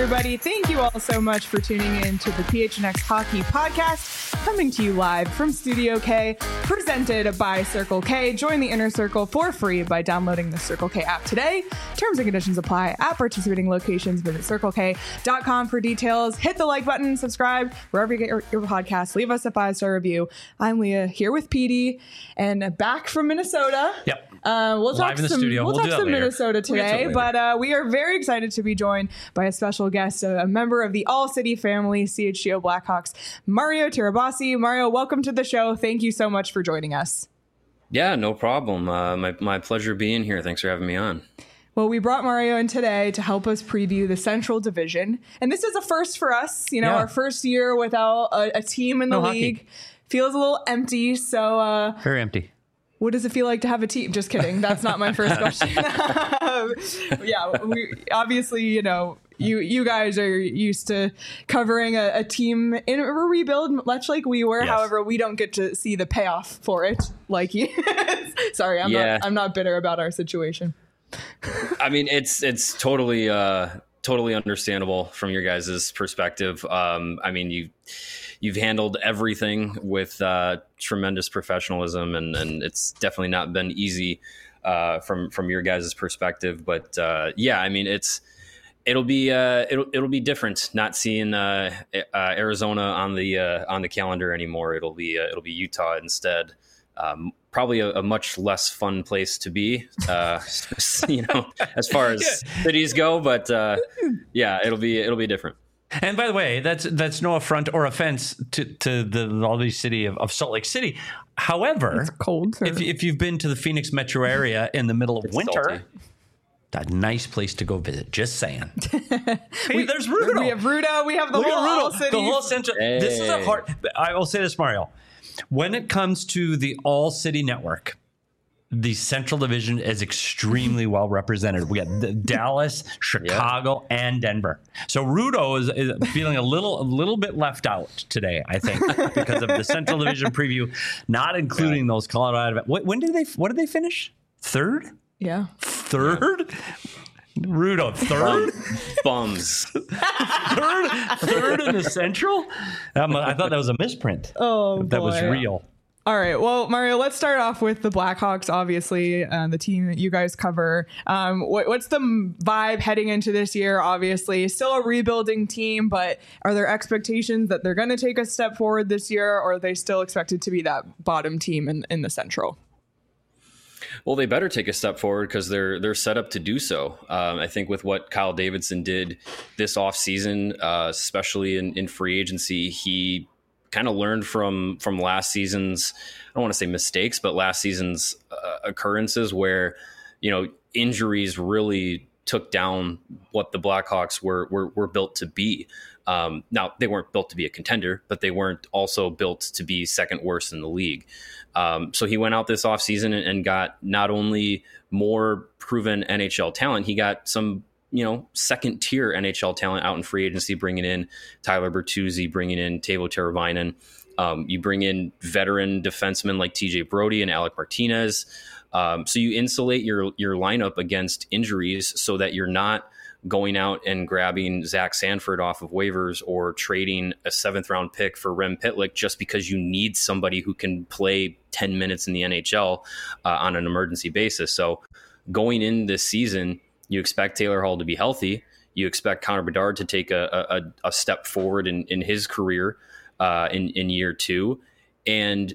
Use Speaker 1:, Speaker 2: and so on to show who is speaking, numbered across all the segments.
Speaker 1: everybody. Thank you all so much for tuning in to the PHNX Hockey Podcast, coming to you live from Studio K, presented by Circle K. Join the Inner Circle for free by downloading the Circle K app today. Terms and conditions apply at participating locations. Visit CircleK.com for details. Hit the like button, subscribe, wherever you get your podcasts. Leave us a 5-star review. I'm Leah, here with Petey, and back from Minnesota.
Speaker 2: Yep.
Speaker 1: We'll talk some Minnesota today, but we are very excited to be joined by a special guest, a member of the All City family, CHGO Blackhawks, Mario Tirabassi. Mario, welcome to the show. Thank you so much for joining us.
Speaker 3: Yeah, no problem. My pleasure being here. Thanks for having me on.
Speaker 1: Well, we brought Mario in today to help us preview the Central Division. And this is a first for us, our first year without a team in the league. Hockey. Feels a little empty. So
Speaker 2: very empty.
Speaker 1: What does it feel like to have a team? Just kidding. That's not my first question. We obviously, you guys are used to covering a team in a rebuild, much like we were. Yes. However, we don't get to see the payoff for it like you. Sorry, I'm not bitter about our situation.
Speaker 3: I mean, it's totally understandable from your guys' perspective. I mean, you've handled everything with tremendous professionalism, and it's definitely not been easy from your guys' perspective. But I mean, it'll be different not seeing Arizona on the calendar anymore. It'll be Utah instead. Probably a much less fun place to be, as far as cities go. But it'll be different.
Speaker 2: And by the way, that's no affront or offense to the lovely city of Salt Lake City. However,
Speaker 1: it's cold.
Speaker 2: If you've been to the Phoenix metro area in the middle of winter,
Speaker 3: salty.
Speaker 2: A nice place to go visit. Just saying. Hey, there's Rudo.
Speaker 1: We have Rudo. We have the whole city.
Speaker 2: The whole central. Hey. This is a hard. I will say this, Mario. When it comes to the All City Network, the Central Division is extremely well represented. We got Dallas, Chicago, and Denver. So Rudo is feeling a little bit left out today, I think, because of the Central Division preview, not including those Colorado. What did they finish? Third?
Speaker 1: Yeah.
Speaker 2: Third? Yeah. Rudo, third?
Speaker 3: Bums.
Speaker 2: third in the Central? I thought that was a misprint.
Speaker 1: Oh,
Speaker 2: that was real.
Speaker 1: All right. Well, Mario, let's start off with the Blackhawks, obviously, the team that you guys cover. What's the vibe heading into this year? Obviously, still a rebuilding team, but are there expectations that they're going to take a step forward this year, or are they still expected to be that bottom team in the Central?
Speaker 3: Well, they better take a step forward because they're set up to do so. I think with what Kyle Davidson did this offseason, especially in free agency, he kind of learned from last season's, I don't want to say mistakes, but last season's occurrences where, injuries really took down what the Blackhawks were built to be. Now, they weren't built to be a contender, but they weren't also built to be second worst in the league. So he went out this offseason and got not only more proven NHL talent, he got some, second tier NHL talent out in free agency, bringing in Tyler Bertuzzi, bringing in Teuvo Teravainen. You bring in veteran defensemen like TJ Brody and Alec Martinez. So you insulate your lineup against injuries so that you're not going out and grabbing Zach Sanford off of waivers or trading a 7th round pick for Rem Pitlick just because you need somebody who can play 10 minutes in the NHL on an emergency basis. So going in this season, you expect Taylor Hall to be healthy. You expect Connor Bedard to take a step forward in his career in year two. And,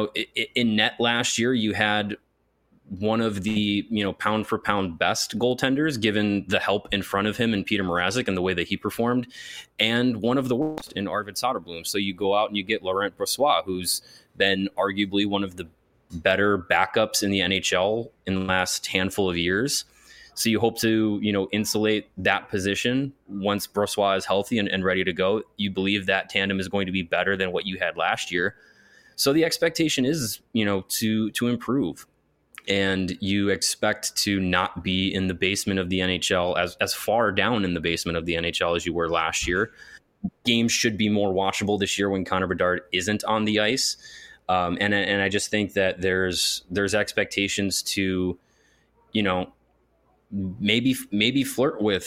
Speaker 3: in net last year, you had one of the, pound for pound best goaltenders, given the help in front of him and Peter Mrazek and the way that he performed, and one of the worst in Arvid Soderblom. So you go out and you get Laurent Brossoit, who's been arguably one of the better backups in the NHL in the last handful of years. So you hope to, insulate that position once Brossoit is healthy and ready to go. You believe that tandem is going to be better than what you had last year. So the expectation is, to improve. And you expect to not be in the basement of the NHL, as far down in the basement of the NHL as you were last year. Games should be more watchable this year when Connor Bedard isn't on the ice. And I just think that there's expectations to, maybe flirt with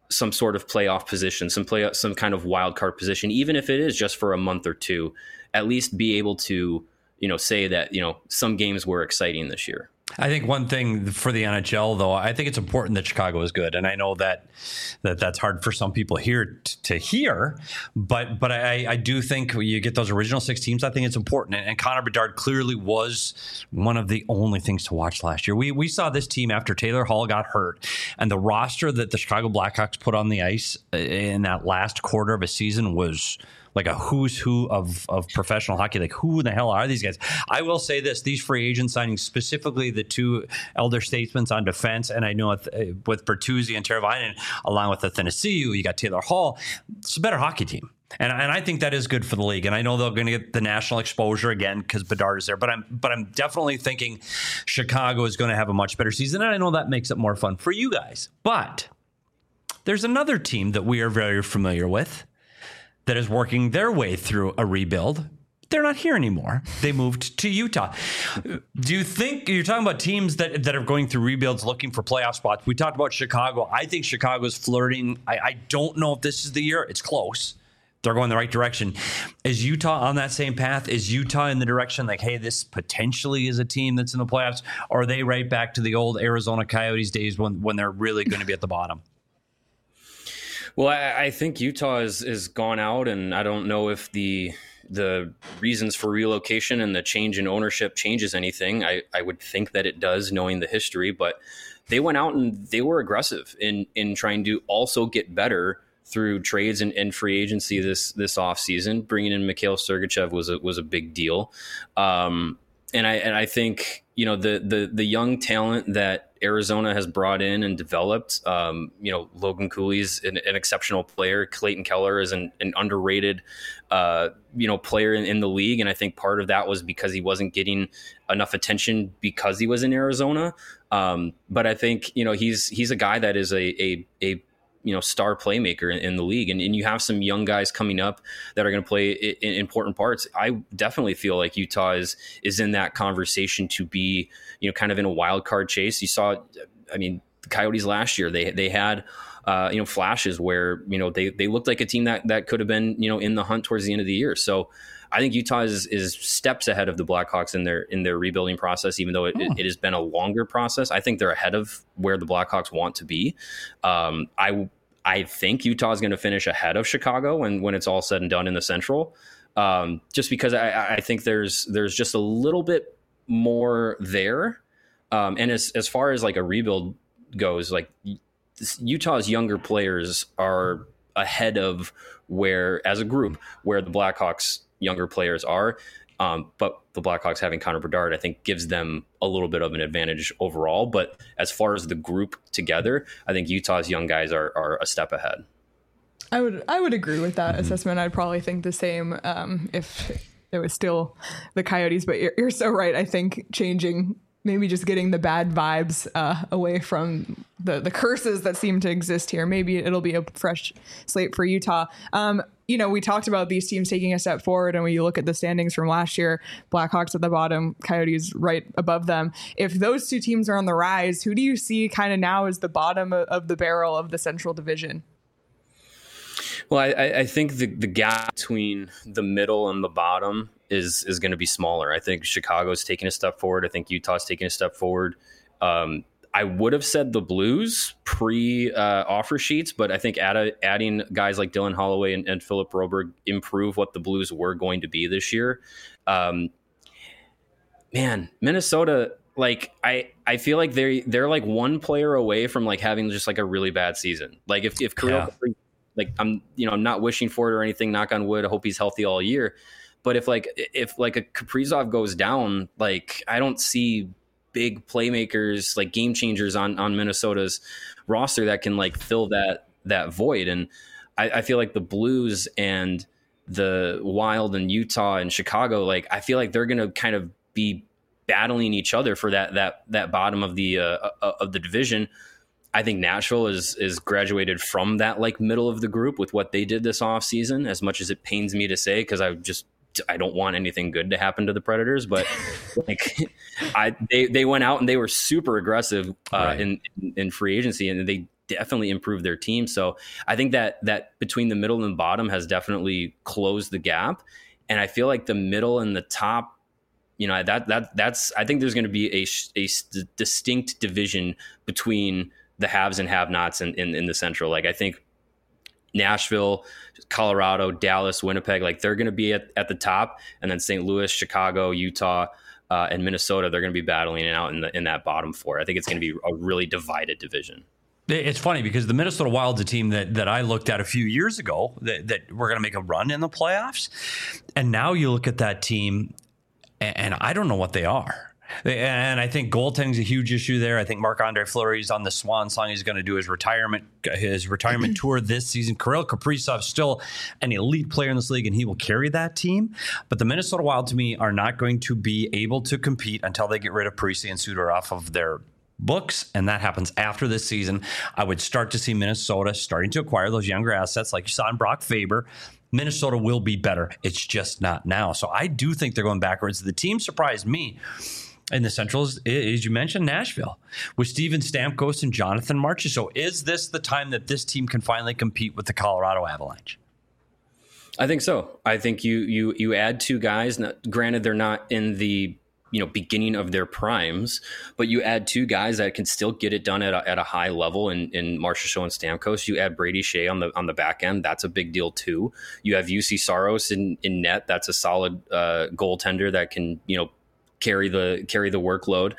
Speaker 3: some sort of playoff position, some kind of wild card position, even if it is just for a month or two, at least be able to, say that, some games were exciting this year.
Speaker 2: I think one thing for the NHL, though, I think it's important that Chicago is good, and I know that's hard for some people here to hear, but I do think when you get those original 6 teams, I think it's important. And Connor Bedard clearly was one of the only things to watch last year. We saw this team after Taylor Hall got hurt, and the roster that the Chicago Blackhawks put on the ice in that last quarter of a season was like a who's who of professional hockey. Like, who the hell are these guys? I will say this, these free agent signings, specifically the 2 elder statesmen on defense, and I know with Bertuzzi and Teravainen, along with Athanasiou, you got Taylor Hall. It's a better hockey team. And I think that is good for the league. And I know they're going to get the national exposure again because Bedard is there. But I'm definitely thinking Chicago is going to have a much better season. And I know that makes it more fun for you guys. But there's another team that we are very familiar with that is working their way through a rebuild. They're not here anymore. They moved to Utah. Do you think, you're talking about teams that are going through rebuilds looking for playoff spots? We talked about Chicago. I think Chicago's flirting. I don't know if this is the year. It's close. They're going the right direction. Is Utah on that same path? Is Utah in the direction like, hey, this potentially is a team that's in the playoffs? Or are they right back to the old Arizona Coyotes days when they're really going to be at the bottom?
Speaker 3: Well, I think Utah is gone out, and I don't know if the reasons for relocation and the change in ownership changes anything. I would think that it does, knowing the history, but they went out and they were aggressive in trying to also get better through trades and free agency this offseason. Bringing in Mikhail Sergachev was a big deal. And I think, the young talent that Arizona has brought in and developed, Logan Cooley's an exceptional player. Clayton Keller is an underrated, player in the league. And I think part of that was because he wasn't getting enough attention because he was in Arizona. But I think, he's a guy that is a star playmaker in the league. And you have some young guys coming up that are going to play in important parts. I definitely feel like Utah is in that conversation to be, kind of in a wild card chase. You saw, the Coyotes last year, they had, flashes where, they looked like a team that could have been, in the hunt towards the end of the year. So I think Utah is steps ahead of the Blackhawks in their rebuilding process, even though it has been a longer process. I think they're ahead of where the Blackhawks want to be. I think Utah is going to finish ahead of Chicago when it's all said and done in the Central, just because I think there's just a little bit more there. And as far as like a rebuild goes, like Utah's younger players are ahead of where, as a group, where the Blackhawks younger players are. But the Blackhawks having Connor Bedard, I think, gives them a little bit of an advantage overall. But as far as the group together, I think Utah's young guys are a step ahead.
Speaker 1: I would agree with that assessment. I'd probably think the same if it was still the Coyotes. But you're so right. I think changing, maybe just getting the bad vibes away from the curses that seem to exist here. Maybe it'll be a fresh slate for Utah. We talked about these teams taking a step forward, and when you look at the standings from last year, Blackhawks at the bottom, Coyotes right above them. If those two teams are on the rise, who do you see kind of now as the bottom of the barrel of the Central Division?
Speaker 3: Well, I think the gap between the middle and the bottom is going to be smaller. I think Chicago's taking a step forward. I think Utah's taking a step forward. I would have said the Blues pre-offer sheets, but I think adding guys like Dylan Holloway and Philip Broberg improve what the Blues were going to be this year. Minnesota, like I feel like they're like one player away from like having just like a really bad season. Like if Kirill, like I'm not wishing for it or anything, knock on wood, I hope he's healthy all year. But if a Kaprizov goes down, like I don't see big playmakers, like game changers on Minnesota's roster that can like fill that void. And I feel like the Blues and the Wild and Utah and Chicago, like I feel like they're going to kind of be battling each other for that bottom of the division. I think Nashville is graduated from that like middle of the group with what they did this offseason, as much as it pains me to say, because I don't want anything good to happen to the Predators, but they went out and they were super aggressive in free agency, and definitely improved their team. So I think that between the middle and bottom has definitely closed the gap. And I feel like the middle and the top, that's I think there's going to be a distinct division between the haves and have-nots in the Central. Like I think Nashville, Colorado, Dallas, Winnipeg, like they're going to be at the top, and then St. Louis, Chicago, Utah, and Minnesota, they're going to be battling it out in that bottom four. I think it's going to be a really divided division.
Speaker 2: It's funny because the Minnesota Wild's a team that I looked at a few years ago that we're going to make a run in the playoffs. And now you look at that team and I don't know what they are. And I think goaltending is a huge issue there. I think Marc-Andre Fleury's on the swan song. He's going to do his retirement tour this season. Kirill Kaprizov's still an elite player in this league, and he will carry that team. But the Minnesota Wild, to me, are not going to be able to compete until they get rid of Parise and Suter off of their books, and that happens after this season. I would start to see Minnesota starting to acquire those younger assets like you saw in Brock Faber. Minnesota will be better. It's just not now. So I do think they're going backwards. The team surprised me in the Central is, as you mentioned, Nashville with Steven Stamkos and Jonathan Marchessault. Is this the time that this team can finally compete with the Colorado Avalanche?
Speaker 3: I think so. I think you add two guys. Now, granted, they're not in the beginning of their primes, but you add two guys that can still get it done at a high level in Marchessault and Stamkos. You add Brady Shea on the back end. That's a big deal too. You have UC Saros in net. That's a solid goaltender that can, carry the workload.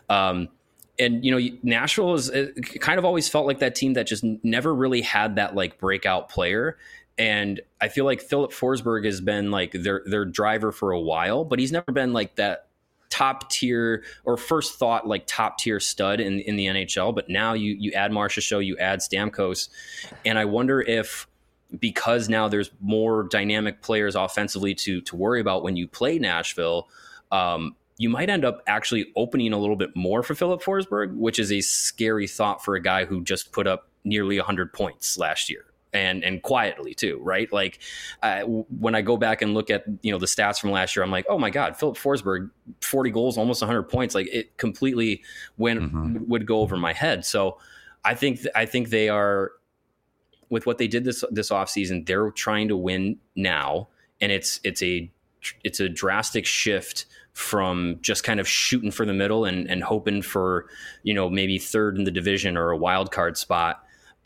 Speaker 3: And Nashville is kind of always felt like that team that just never really had that like breakout player. And I feel like Philip Forsberg has been like their driver for a while, but he's never been like that top tier or first thought like top tier stud in the NHL. But now you add Marchessault, you add Stamkos, and I wonder if because now there's more dynamic players offensively to worry about when you play Nashville, you might end up actually opening a little bit more for Philip Forsberg, which is a scary thought for a guy who just put up nearly 100 points last year. And quietly too, right? Like when I go back and look at the stats from last year, I'm like, oh my God, Philip Forsberg, 40 goals, almost 100 points. Like it completely would go over my head. So I think they are, with what they did this offseason, they're trying to win now, and it's a drastic shift from just kind of shooting for the middle and hoping for maybe third in the division or a wild card spot.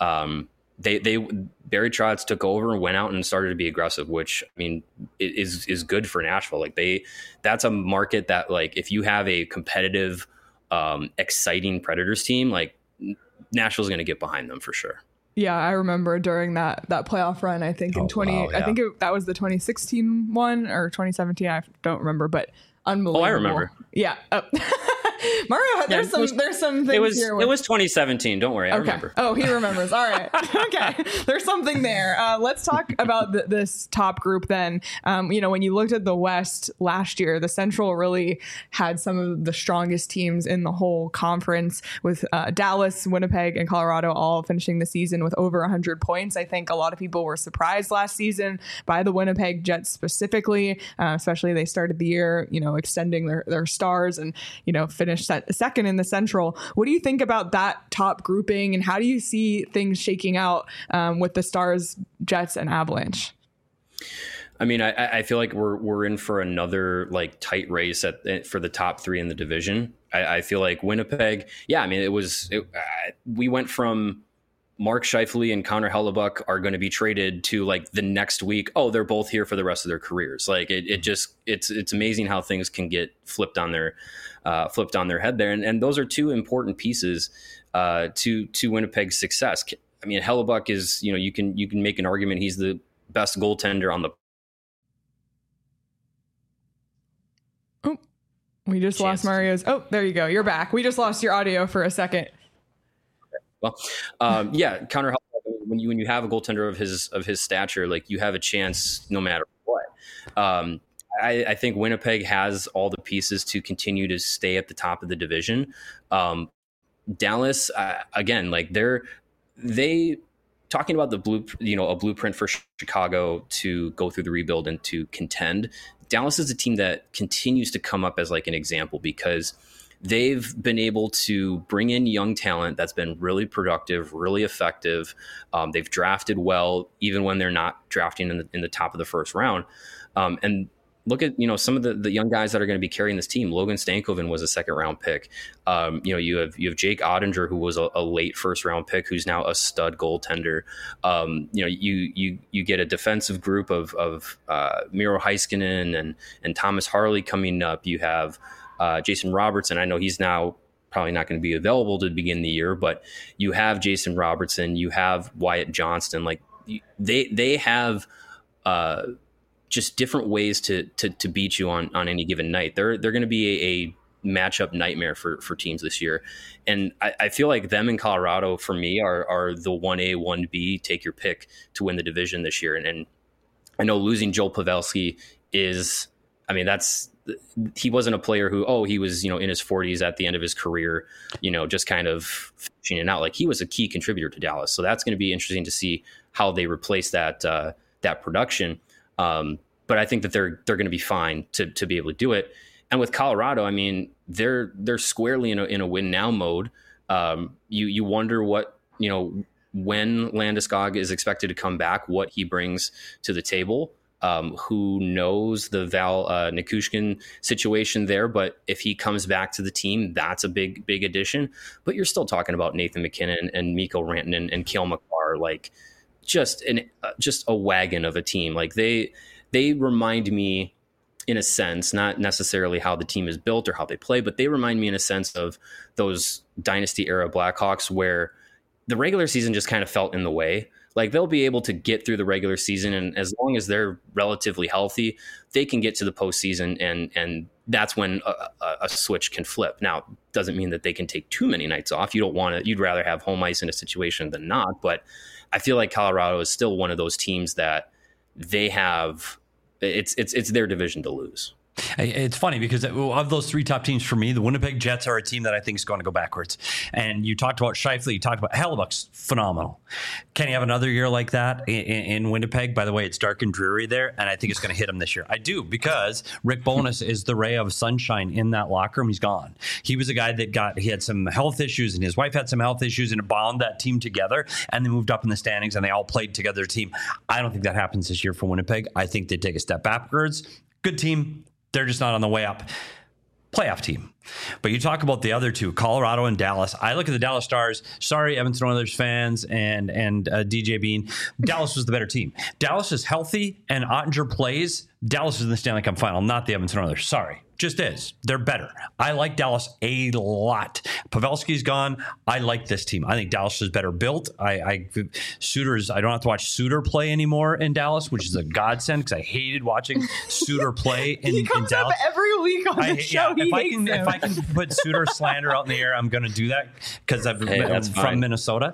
Speaker 3: Barry Trotz took over and went out and started to be aggressive, which I mean is good for Nashville. Like that's a market that, like, if you have a competitive, exciting Predators team, like Nashville's going to get behind them for sure.
Speaker 1: Yeah, I remember during that playoff run, I think in 20, wow, yeah. I think that was the 2016 one or 2017. I don't remember, but unbelievable.
Speaker 3: Oh, I remember.
Speaker 1: Yeah. Oh. Mario, there's some things here.
Speaker 3: It was 2017. Don't worry, I remember.
Speaker 1: Oh, he remembers. All right. Okay. There's something there. Let's talk about this top group then. When you looked at the West last year, the Central really had some of the strongest teams in the whole conference, with Dallas, Winnipeg, and Colorado all finishing the season with over 100 points. I think a lot of people were surprised last season by the Winnipeg Jets specifically, especially they started the year, extending their stars and, finished second in the Central. What do you think about that top grouping, and how do you see things shaking out with the Stars, Jets, and Avalanche?
Speaker 3: I mean, I feel like we're in for another like tight race for the top three in the division. I feel like Winnipeg. Yeah, I mean, we went from Mark Scheifele and Connor Hellebuyck are going to be traded to like the next week. Oh, they're both here for the rest of their careers. Like it's amazing how things can get flipped on their head there. And those are two important pieces to Winnipeg's success. I mean, Hellebuyck is, you can make an argument he's the best goaltender on the.
Speaker 1: Oh, we just lost Mario's. Oh, there you go. You're back. We just lost your audio for a second.
Speaker 3: Well, yeah, Connor Hellebuyck, when you have a goaltender of his stature, like, you have a chance no matter what. I think Winnipeg has all the pieces to continue to stay at the top of the division. Dallas, again, like they talking about a blueprint for Chicago to go through the rebuild and to contend. Dallas is a team that continues to come up as like an example, because they've been able to bring in young talent that's been really productive, really effective. They've drafted well, even when they're not drafting in the top of the first round. And look at, some of the young guys that are going to be carrying this team. Logan Stankoven was a second round pick. You have Jake Ottinger, who was a late first round pick, who's now a stud goaltender. You get a defensive group of Miro Heiskanen and Thomas Harley coming up. You have Jason Robertson. I know he's now probably not going to be available to begin the year, but you have Jason Robertson, you have Wyatt Johnston. Like they have just different ways to beat you on any given night. They're going to be a matchup nightmare for teams this year. And I feel like them in Colorado, for me, are the 1A, 1B, take your pick to win the division this year. And I know losing Joel Pavelski he wasn't a player who, he was, in his 40s at the end of his career, just kind of finishing it out. Like, he was a key contributor to Dallas. So that's going to be interesting to see how they replace that production. But I think that they're going to be fine to be able to do it. And with Colorado, they're squarely in a win now mode. You wonder what, when Landeskog is expected to come back, what he brings to the table. Who knows the Val Nichushkin situation there, but if he comes back to the team, that's a big addition. But you're still talking about Nathan McKinnon and Mikko Rantanen and Cale Makar, like just a wagon of a team. Like they remind me, in a sense, not necessarily how the team is built or how they play, but they remind me in a sense of those dynasty era Blackhawks where the regular season just kind of felt in the way. Like, they'll be able to get through the regular season, and as long as they're relatively healthy, they can get to the postseason, and that's when a switch can flip. Now, doesn't mean that they can take too many nights off. You'd rather have home ice in a situation than not, but I feel like Colorado is still one of those teams that they have. It's their division to lose.
Speaker 2: It's funny because of those three top teams for me, the Winnipeg Jets are a team that I think is going to go backwards. And you talked about Scheifele, you talked about Hellebuck's phenomenal. Can he have another year like that in Winnipeg? By the way, it's dark and dreary there, and I think it's going to hit him this year. I do, because Rick Bowness is the ray of sunshine in that locker room. He's gone. He was a guy that he had some health issues, and his wife had some health issues, and it bound that team together, and they moved up in the standings, and they all played together as a team. I don't think that happens this year for Winnipeg. I think they take a step backwards. Good team. They're just not on the way up. Playoff team. But you talk about the other two, Colorado and Dallas. I look at the Dallas Stars. Sorry, Edmonton Oilers fans and DJ Bean. Dallas was the better team. Dallas is healthy and Ottinger plays. Dallas is in the Stanley Cup final, not the Edmonton Oilers. Sorry. Just is. They're better. I like Dallas a lot. Pavelski's gone. I like this team. I think Dallas is better built. I don't have to watch Suter play anymore in Dallas, which is a godsend because I hated watching Suter play in Dallas.
Speaker 1: He comes up every week on the show.
Speaker 2: If I can put Suter slander out in the air, I'm going to do that because I'm from Minnesota.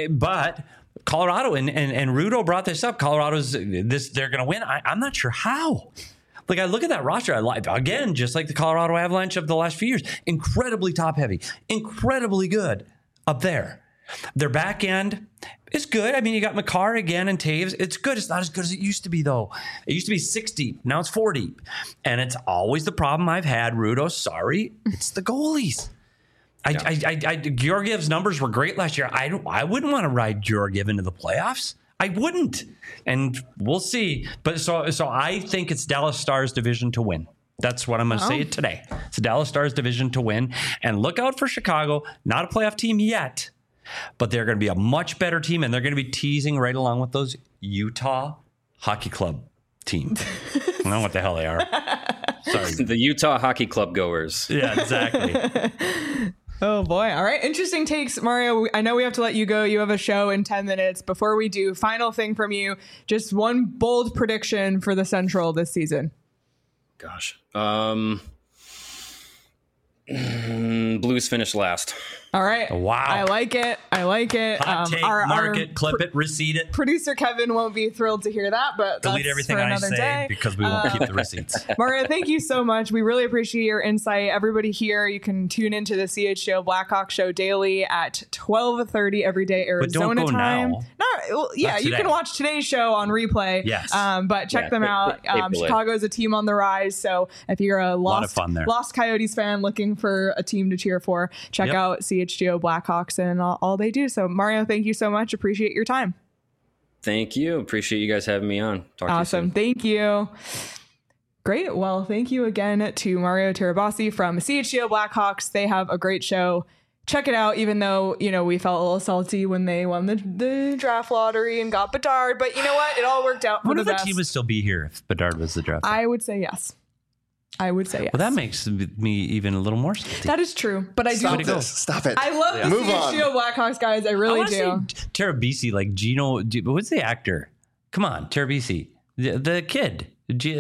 Speaker 2: But Colorado and Rudo brought this up. Colorado's they're going to win. I'm not sure how. Like, I look at that roster, I like, again, just like the Colorado Avalanche of the last few years, incredibly top heavy, incredibly good up there. Their back end is good. You got Makar again and Taves. It's good. It's not as good as it used to be, though. It used to be 6 deep. Now it's 4 deep. And it's always the problem I've had, Rudo. Sorry. It's the goalies. Georgiev's numbers were great last year. I wouldn't want to ride Georgiev into the playoffs. I wouldn't. And we'll see. But so I think it's Dallas Stars division to win. That's what I'm going to say today. It's the Dallas Stars division to win. And look out for Chicago. Not a playoff team yet, but they're going to be a much better team, and they're going to be teasing right along with those Utah Hockey Club teams. I don't know what the hell they are. Sorry.
Speaker 3: The Utah Hockey Club goers.
Speaker 2: Yeah, exactly.
Speaker 1: Oh, boy. All right. Interesting takes, Mario. I know we have to let you go. You have a show in 10 minutes. Before we do, final thing from you. Just one bold prediction for the Central this season.
Speaker 3: Gosh. Blues finish last.
Speaker 1: All right.
Speaker 2: Wow.
Speaker 1: I like it.
Speaker 2: Hot take, mark it, clip it, receipt it.
Speaker 1: Producer Kevin won't be thrilled to hear that, but
Speaker 2: delete everything I say day. Because we won't keep the receipts.
Speaker 1: Mario, thank you so much. We really appreciate your insight. Everybody here, you can tune into the CHGO Blackhawk Show daily at 12:30 every day Arizona time.
Speaker 2: Now.
Speaker 1: No, you can watch today's show on replay.
Speaker 2: Yes.
Speaker 1: But check them out. Chicago is a team on the rise. So if you're a Lost Coyotes fan looking for a team to cheer for, check out CHGO Blackhawks and all they do. So Mario, thank you so much. Appreciate your time.
Speaker 3: Thank you. Appreciate you guys having me on. Talk
Speaker 1: awesome.
Speaker 3: To you soon.
Speaker 1: Thank you. Great. Well, thank you again to Mario Tirabassi from CHGO Blackhawks. They have a great show. Check it out, even though, we felt a little salty when they won the draft lottery and got Bedard. But you know what? It all worked out for the best.
Speaker 2: The team would still be here if Bedard was the draft.
Speaker 1: I would say yes. Well,
Speaker 2: that makes me even a little more salty.
Speaker 1: That is true. But I do.
Speaker 4: Stop it.
Speaker 1: I love the CHGO Blackhawks, guys. I really do.
Speaker 2: Tirabassi, like Gino. What's the actor? Come on, Tirabassi. The kid.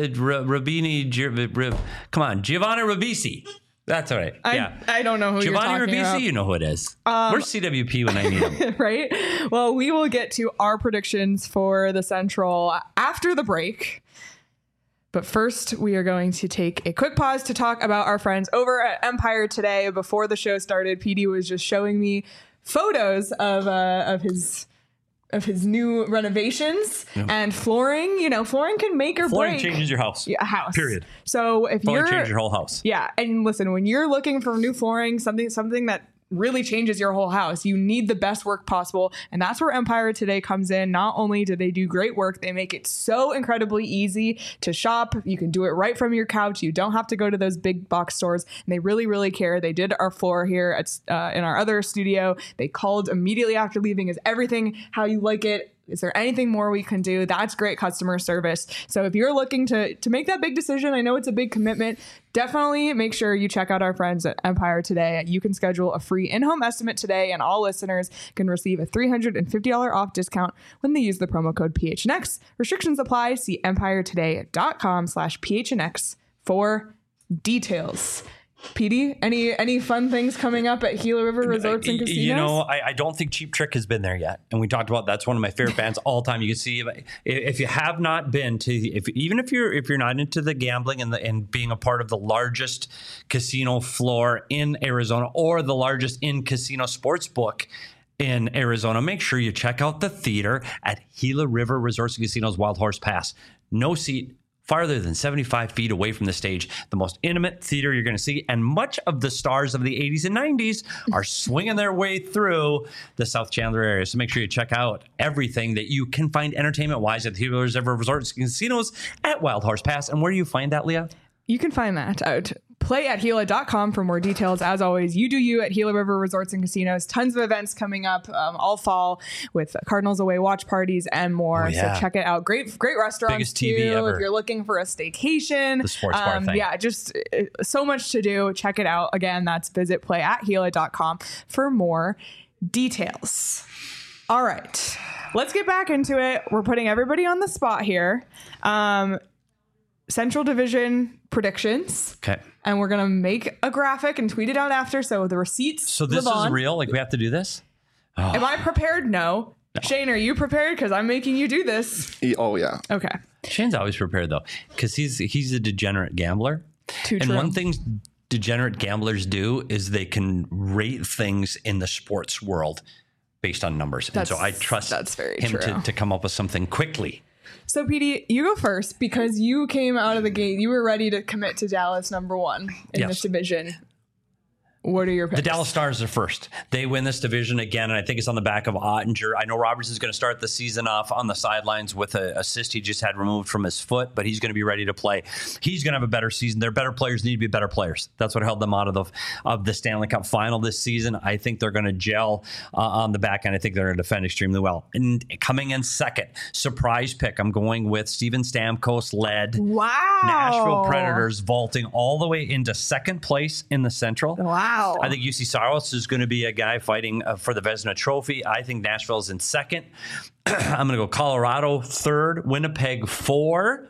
Speaker 2: Rabini. Come on, Giovanni Ribisi. That's all right.
Speaker 1: I don't know who
Speaker 2: Giovanni
Speaker 1: you're talking
Speaker 2: Ribisi,
Speaker 1: about.
Speaker 2: You know who it is. Where's CWP when I need him?
Speaker 1: Right? Well, we will get to our predictions for the Central after the break. But first, we are going to take a quick pause to talk about our friends over at Empire Today. Before the show started, PD was just showing me photos of his new renovations and flooring. Flooring can make or break.
Speaker 2: Flooring changes your house.
Speaker 1: Yeah, a house.
Speaker 2: Period.
Speaker 1: So if
Speaker 2: flooring changes your whole house.
Speaker 1: Yeah, and listen, when you're looking for new flooring, something that really changes your whole house, you need the best work possible, and that's where Empire Today comes in. Not only do they do great work, they make it so incredibly easy to shop. You can do it right from your couch. You don't have to go to those big box stores, and they really, really care. They did our floor here at in our other studio. They called immediately after leaving. Is everything how you like it? Is there anything more we can do? That's great customer service. So if you're looking to make that big decision, I know it's a big commitment, definitely make sure you check out our friends at Empire Today. You can schedule a free in-home estimate today, and all listeners can receive a $350 off discount when they use the promo code PHNX. Restrictions apply. See empiretoday.com/PHNX for details. PD, any fun things coming up at Gila River Resorts and Casinos?
Speaker 2: I don't think Cheap Trick has been there yet, and we talked about that's one of my favorite bands all time. You can see if you have not been to, even if you're not into the gambling and being a part of the largest casino floor in Arizona or the largest in casino sports book in Arizona, make sure you check out the theater at Gila River Resorts and Casinos Wild Horse Pass. No seat farther than 75 feet away from the stage, the most intimate theater you're going to see. And much of the stars of the 80s and 90s are swinging their way through the South Chandler area. So make sure you check out everything that you can find entertainment-wise at the Gila River Resorts and Casinos at Wild Horse Pass. And where do you find that, Leah?
Speaker 1: You can find that at playathila.com for more details. As always, you do you at Gila River Resorts and Casinos. Tons of events coming up all fall with Cardinals away watch parties and more. So check it out. Great restaurants.
Speaker 2: Biggest TV ever.
Speaker 1: If you're looking for a staycation.
Speaker 2: The sports bar thing.
Speaker 1: Yeah, just so much to do. Check it out. Again, that's visit playathila.com for more details. All right, let's get back into it. We're putting everybody on the spot here. Central Division predictions.
Speaker 2: Okay.
Speaker 1: And we're going to make a graphic and tweet it out after. So the receipts.
Speaker 2: So this is real? Like we have to do this?
Speaker 1: Oh. Am I prepared? No. Shane, are you prepared? Because I'm making you do this.
Speaker 4: Oh, yeah.
Speaker 1: Okay.
Speaker 2: Shane's always prepared, though, because he's a degenerate gambler.
Speaker 1: Too true.
Speaker 2: One thing degenerate gamblers do is they can rate things in the sports world based on numbers. And so I trust him to come up with something quickly.
Speaker 1: So, PD, you go first because you came out of the gate. You were ready to commit to Dallas #1 in this division. What are your picks?
Speaker 2: The Dallas Stars are first. They win this division again, and I think it's on the back of Ottinger. I know Robertson's going to start the season off on the sidelines with a cyst he just had removed from his foot, but he's going to be ready to play. He's going to have a better season. Their better players need to be better players. That's what held them out of the Stanley Cup final this season. I think they're going to gel on the back end. I think they're going to defend extremely well. And coming in second, surprise pick, I'm going with Steven Stamkos-led Nashville Predators, vaulting all the way into second place in the Central.
Speaker 1: Wow.
Speaker 2: I think UC Saros is going to be a guy fighting for the Vezina Trophy. I think Nashville's in second. I'm going to go Colorado third, Winnipeg 4.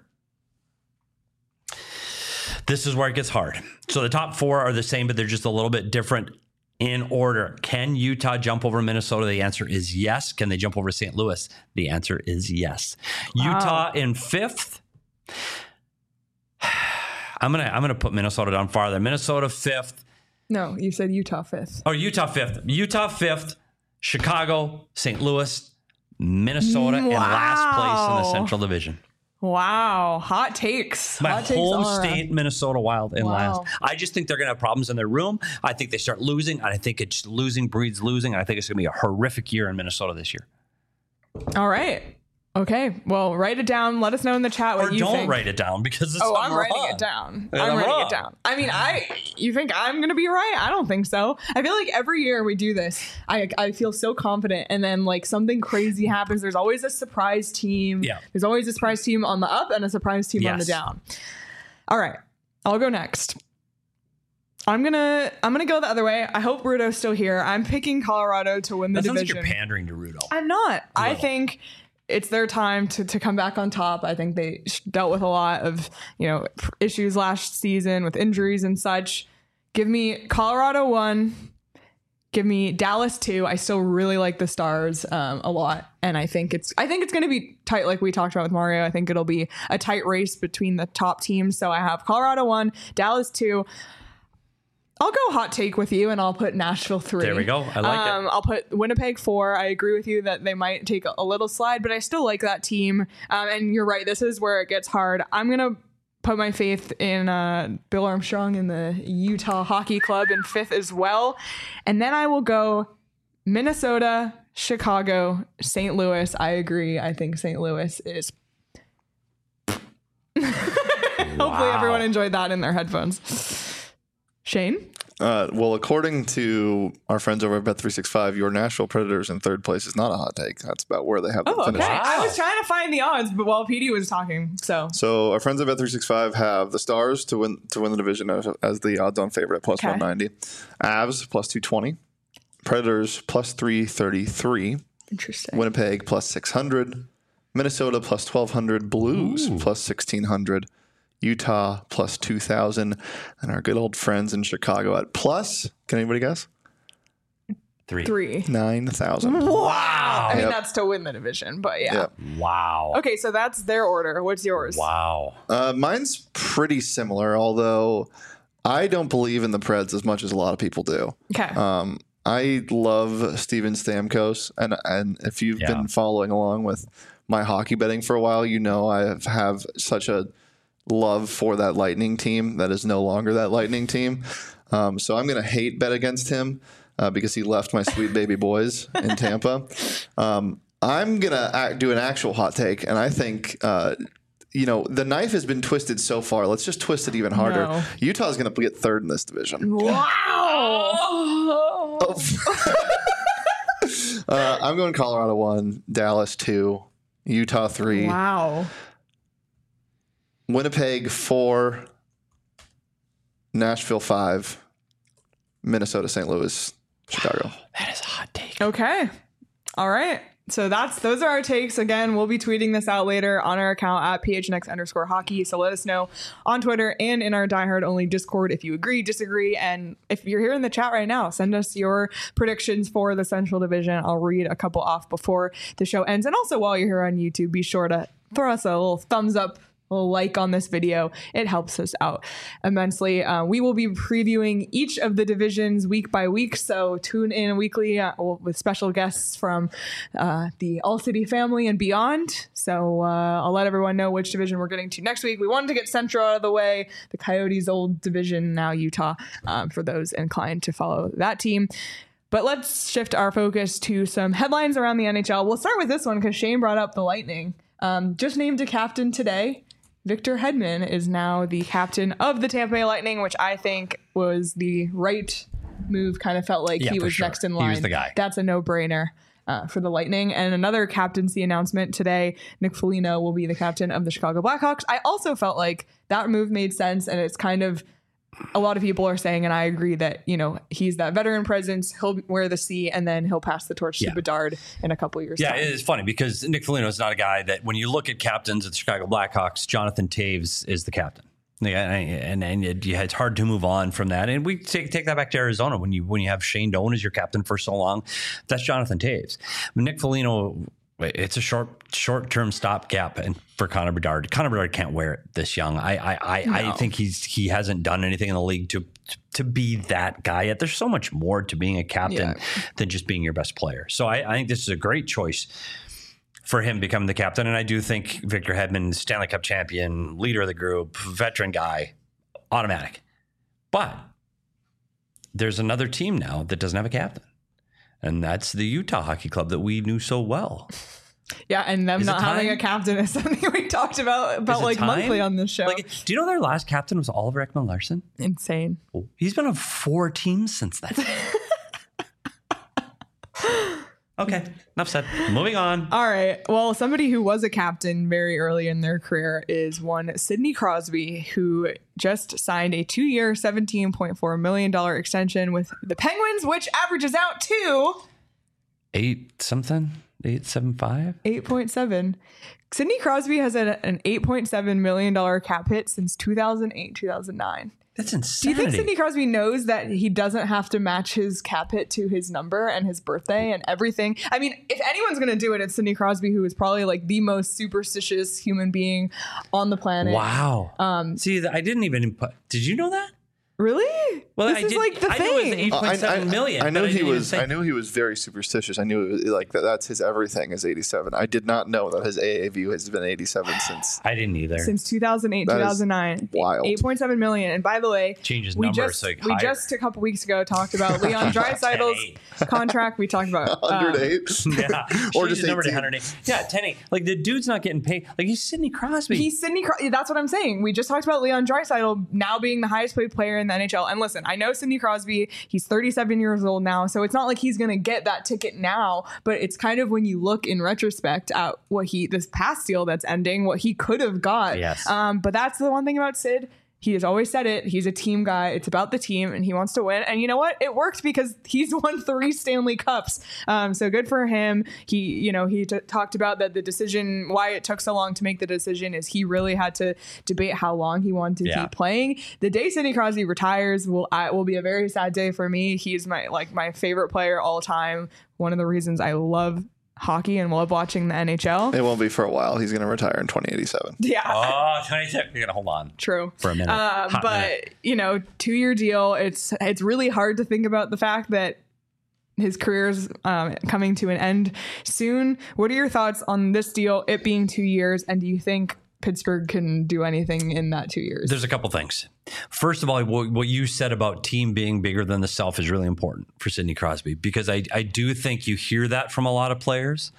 Speaker 2: This is where it gets hard. So the top 4 are the same, but they're just a little bit different in order. Can Utah jump over Minnesota? The answer is yes. Can they jump over St. Louis? The answer is yes. Wow. Utah in 5th. I'm gonna put Minnesota down farther. Minnesota 5th.
Speaker 1: No, you said Utah 5th.
Speaker 2: Oh, Utah 5th. Utah 5th. Chicago, St. Louis, Minnesota in last place in the Central Division.
Speaker 1: Wow. Hot takes.
Speaker 2: My
Speaker 1: Hot takes
Speaker 2: home
Speaker 1: all around.
Speaker 2: state, Minnesota Wild in last. I just think they're going to have problems in their room. I think they start losing. And I think it's losing breeds losing. And I think it's going to be a horrific year in Minnesota this year.
Speaker 1: All right. Okay. Well, write it down. Let us know in the chat what you think.
Speaker 2: Or don't write it down because it's
Speaker 1: I'm writing it down.
Speaker 2: And
Speaker 1: I'm writing
Speaker 2: wrong.
Speaker 1: it down. I mean, you think I'm going to be right? I don't think so. I feel like every year we do this, I feel so confident. And then like something crazy happens. There's always a surprise team.
Speaker 2: Yeah.
Speaker 1: There's always a surprise team on the up and a surprise team on the down. All right. I'll go next. I'm gonna go the other way. I hope Rudo's still here. I'm picking Colorado to win the division.
Speaker 2: Sounds like you're pandering to Rudo.
Speaker 1: I'm not. I think it's their time to come back on top. I think they dealt with a lot of, issues last season with injuries and such. Give me Colorado 1. Give me Dallas 2. I still really like the Stars a lot. And I think it's going to be tight like we talked about with Mario. I think it'll be a tight race between the top teams. So I have Colorado 1, Dallas 2. I'll go hot take with you, and I'll put Nashville 3.
Speaker 2: There we go. I like it.
Speaker 1: I'll put Winnipeg 4. I agree with you that they might take a little slide, but I still like that team. And you're right. This is where it gets hard. I'm going to put my faith in Bill Armstrong in the Utah Hockey Club in 5th as well. And then I will go Minnesota, Chicago, St. Louis. I agree. I think St. Louis is... Hopefully everyone enjoyed that in their headphones. Shane?
Speaker 4: Well, according to our friends over at Bet365, your Nashville Predators in 3rd place is not a hot take. That's about where they have them finished.
Speaker 1: Okay. I was trying to find the odds, but while PD was talking, so
Speaker 4: our friends at Bet365 have the Stars to win the division as the odds-on favorite at plus 190, Avs plus 220, Predators plus 333,
Speaker 1: interesting.
Speaker 4: Winnipeg plus 600, Minnesota plus 1200, Blues plus 1600. Utah plus 2,000, and our good old friends in Chicago at plus, can anybody guess?
Speaker 1: 3.
Speaker 4: 9,000.
Speaker 1: Wow. I mean, that's to win the division, but yeah.
Speaker 2: Wow.
Speaker 1: Okay, so that's their order. What's yours?
Speaker 2: Wow.
Speaker 4: Mine's pretty similar, although I don't believe in the Preds as much as a lot of people do.
Speaker 1: Okay.
Speaker 4: I love Steven Stamkos, and if you've been following along with my hockey betting for a while, I have such a love for that Lightning team that is no longer that Lightning team. So I'm going to hate bet against him because he left my sweet baby boys in Tampa. I'm going to do an actual hot take, and I think the knife has been twisted so far. Let's just twist it even harder.
Speaker 1: No.
Speaker 4: Utah's going to get 3rd in this division.
Speaker 1: Wow.
Speaker 4: I'm going Colorado 1, Dallas 2, Utah 3.
Speaker 1: Wow.
Speaker 4: Winnipeg 4, Nashville 5, Minnesota, St. Louis, Chicago.
Speaker 2: That is a hot take.
Speaker 1: Okay. All right. So those are our takes. Again, we'll be tweeting this out later on our account at PHNX_hockey. So let us know on Twitter and in our Diehard Only Discord if you agree, disagree. And if you're here in the chat right now, send us your predictions for the Central Division. I'll read a couple off before the show ends. And also while you're here on YouTube, be sure to throw us a little thumbs up, a like on this video. It helps us out immensely. We will be previewing each of the divisions week by week, so tune in weekly with special guests from the All City family and beyond. So I'll let everyone know which division we're getting to next week. We wanted to get Central out of the way, the Coyotes' old division, now Utah, for those inclined to follow that team. But let's shift our focus to some headlines around the NHL. We'll start with this one because Shane brought up the Lightning. Just named a captain today. Victor Hedman is now the captain of the Tampa Bay Lightning, which I think was the right move. Kind of felt like he was next in line.
Speaker 2: He was the guy.
Speaker 1: That's a no-brainer for the Lightning. And another captaincy announcement today, Nick Foligno will be the captain of the Chicago Blackhawks. I also felt like that move made sense, and it's kind of a lot of people are saying, and I agree, that, he's that veteran presence. He'll wear the C, and then he'll pass the torch to Bedard in a couple years.
Speaker 2: Yeah,
Speaker 1: time.
Speaker 2: it's funny because Nick Foligno is not a guy that when you look at captains at the Chicago Blackhawks, Jonathan Toews is the captain. And it's hard to move on from that. And we take that back to Arizona when you have Shane Doan as your captain for so long. That's Jonathan Toews. Nick Foligno, it's a short-term stopgap for Connor Bedard. Connor Bedard can't wear it this young. I think he hasn't done anything in the league to be that guy yet. There's so much more to being a captain than just being your best player. So I think this is a great choice for him becoming the captain. And I do think Victor Hedman, Stanley Cup champion, leader of the group, veteran guy, automatic. But there's another team now that doesn't have a captain. And that's the Utah Hockey Club that we knew so well.
Speaker 1: Yeah, and them not having a captain is something we talked about like monthly on this show.
Speaker 2: Like, do you know their last captain was Oliver Ekman-Larsson?
Speaker 1: Insane.
Speaker 2: Oh, he's been on 4 teams since then. Okay, enough said. Moving on.
Speaker 1: All right. Well, somebody who was a captain very early in their career is one Sidney Crosby, who just signed a 2-year, $17.4 million extension with the Penguins, which averages out to
Speaker 2: 8.75?
Speaker 1: 8.7. Sidney Crosby has an $8.7 million cap hit since 2008, 2009.
Speaker 2: That's insanity.
Speaker 1: Do you think Sidney Crosby knows that he doesn't have to match his cap hit to his number and his birthday and everything? I mean, if anyone's going to do it, it's Sidney Crosby, who is probably like the most superstitious human being on the planet.
Speaker 2: Wow. See, I didn't even put. Did you know that?
Speaker 1: Really?
Speaker 2: Well,
Speaker 1: this is like the thing.
Speaker 2: I knew it was 8.7 million.
Speaker 4: I know he was. I knew he was very superstitious. I knew it was like that's his everything is 87. I did not know that his AAV has been 87 since.
Speaker 2: I didn't either.
Speaker 1: Since 2008, 2009.
Speaker 4: Wild.
Speaker 1: 8.7 million. And by the way,
Speaker 2: changes
Speaker 1: we
Speaker 2: numbers.
Speaker 1: We just a couple weeks ago talked about Leon Draisaitl's contract. We talked about
Speaker 4: 108.
Speaker 2: Yeah,
Speaker 4: or just
Speaker 2: number to
Speaker 4: 18.
Speaker 2: 108. Yeah, 10-8. Like the dude's not getting paid. Like he's Sidney Crosby.
Speaker 1: He's Sidney Crosby. That's what I'm saying. We just talked about Leon Draisaitl now being the highest paid player in the NHL. And listen, I know Sidney Crosby, he's 37 years old now, so it's not like he's going to get that ticket now, but it's kind of when you look in retrospect at what this past deal that's ending, what he could have got.
Speaker 2: Yes.
Speaker 1: But that's the one thing about Sid. He has always said it. He's a team guy. It's about the team, and he wants to win. And you know what? It worked because he's won 3 Stanley Cups. So good for him. He talked about that the decision, why it took so long to make the decision, is he really had to debate how long he wanted to keep playing. The day Sidney Crosby retires will be a very sad day for me. He's my favorite player all time. One of the reasons I love hockey and love watching the NHL.
Speaker 4: It won't be for a while. He's going to retire in 2087.
Speaker 1: Yeah.
Speaker 2: Oh, 2087. You're going to hold on.
Speaker 1: True.
Speaker 2: For a minute.
Speaker 1: But, 2-year deal. It's really hard to think about the fact that his career's coming to an end soon. What are your thoughts on this deal, it being 2 years? And do you think Pittsburgh can do anything in that 2 years?
Speaker 2: There's a couple things. First of all, what you said about team being bigger than the self is really important for Sidney Crosby, because I do think you hear that from a lot of players,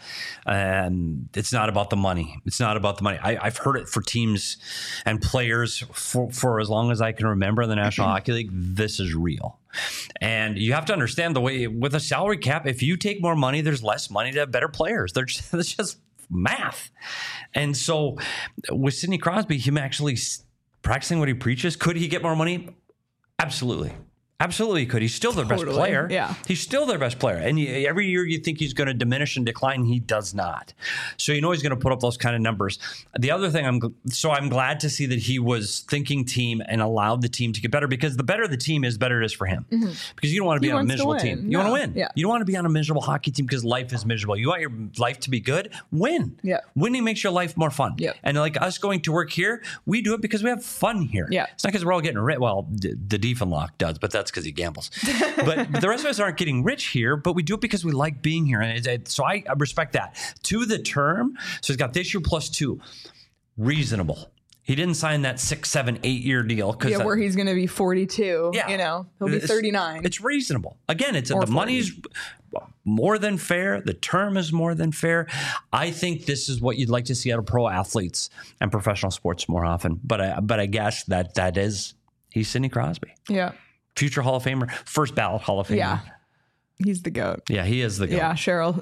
Speaker 2: and it's not about the money. It's not about the money. I've heard it for teams and players for as long as I can remember in the National Hockey League. This is real. And you have to understand the way with a salary cap, if you take more money, there's less money to have better players. It's just math. And so with Sidney Crosby, him actually practicing what he preaches, could he get more money? Absolutely. Absolutely he could. He's still their best player. Yeah. He's still their best player. And every year you think he's going to diminish and decline. He does not. So you know he's going to put up those kind of numbers. The other thing, I'm glad to see that he was thinking team and allowed the team to get better, because the better the team is, better it is for him. Mm-hmm. Because you don't want to be on a miserable team. You want to win. Yeah. You don't want to be on a miserable hockey team because life is miserable. You want your life to be good? Win. Yeah. Winning makes your life more fun. Yeah. And like us going to work here, we do it because we have fun here. Yeah. It's not because we're all getting rich. Well, the Diefenloch does, but that's because he gambles. But the rest of us aren't getting rich here, but we do it because we like being here. And so I respect that. To the term, so he's got this year plus 2. Reasonable. He didn't sign that 6, 7, 8 year deal.
Speaker 1: Where he's going to be 42. Yeah. He'll be 39.
Speaker 2: It's reasonable. Again, the money's more than fair. The term is more than fair. I think this is what you'd like to see out of pro athletes and professional sports more often. But I guess that is, he's Sidney Crosby. Yeah. Future Hall of Famer, first ballot Hall of Famer. Yeah, he's the GOAT. Yeah, he is the GOAT. Yeah, Cheryl,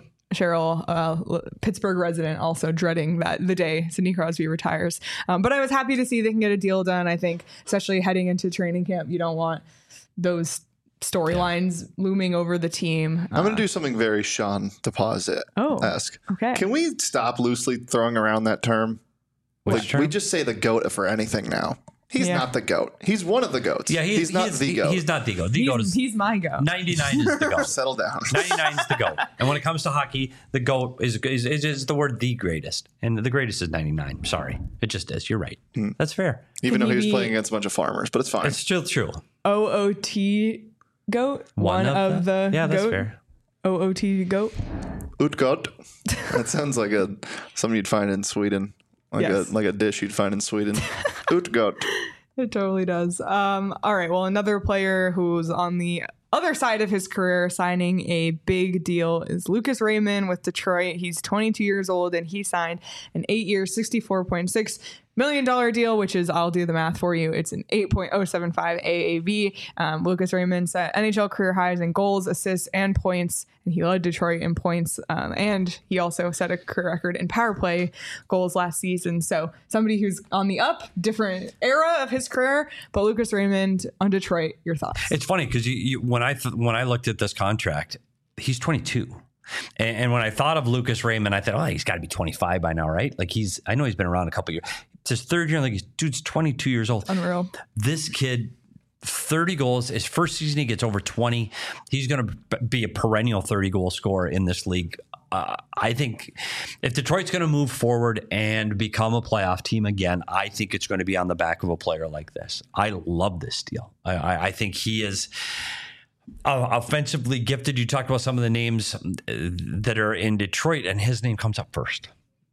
Speaker 2: Pittsburgh resident, also dreading the day Sidney Crosby retires. But I was happy to see they can get a deal done. I think, especially heading into training camp, you don't want those storylines looming over the team. I'm going to do something very Sean Deposit-esque. Okay. Can we stop loosely throwing around that term? Term? We just say the GOAT for anything now. He's not the GOAT. He's one of the GOATs. Yeah, he's not the GOAT. He's not the GOAT. The GOAT is, he's my GOAT. 99 is the GOAT. Settle down. 99 is the GOAT. And when it comes to hockey, the GOAT is the word the greatest. And the greatest is 99. Sorry. It just is. You're right. That's fair. Even though he was playing against a bunch of farmers, but it's fine. It's still true. OOT GOAT? One of the yeah, that's GOAT? Fair. OOT GOAT?
Speaker 4: Utgott. That sounds like something you'd find in Sweden. Like a dish you'd find in Sweden. Utgott.
Speaker 1: It totally does. All right. Well, another player who's on the other side of his career signing a big deal is Lucas Raymond with Detroit. He's 22 years old and he signed an 8-year, $64.6 million deal, which is, I'll do the math for you. It's an 8.075 AAV. Lucas Raymond set NHL career highs in goals, assists, and points, and he led Detroit in points. And he also set a career record in power play goals last season. So somebody who's on the up, different era of his career. But Lucas Raymond on Detroit, your thoughts?
Speaker 2: It's funny because when I looked at this contract, he's 22. And when I thought of Lucas Raymond, I thought, oh, he's got to be 25 by now, right? Like I know he's been around a couple of years. It's his third year. Like, dude's 22 years old.
Speaker 1: Unreal.
Speaker 2: This kid, 30 goals. His first season, he gets over 20. He's going to be a perennial 30-goal scorer in this league. I think if Detroit's going to move forward and become a playoff team again, I think it's going to be on the back of a player like this. I love this deal. I think he is offensively gifted. You talked about some of the names that are in Detroit, and his name comes up first.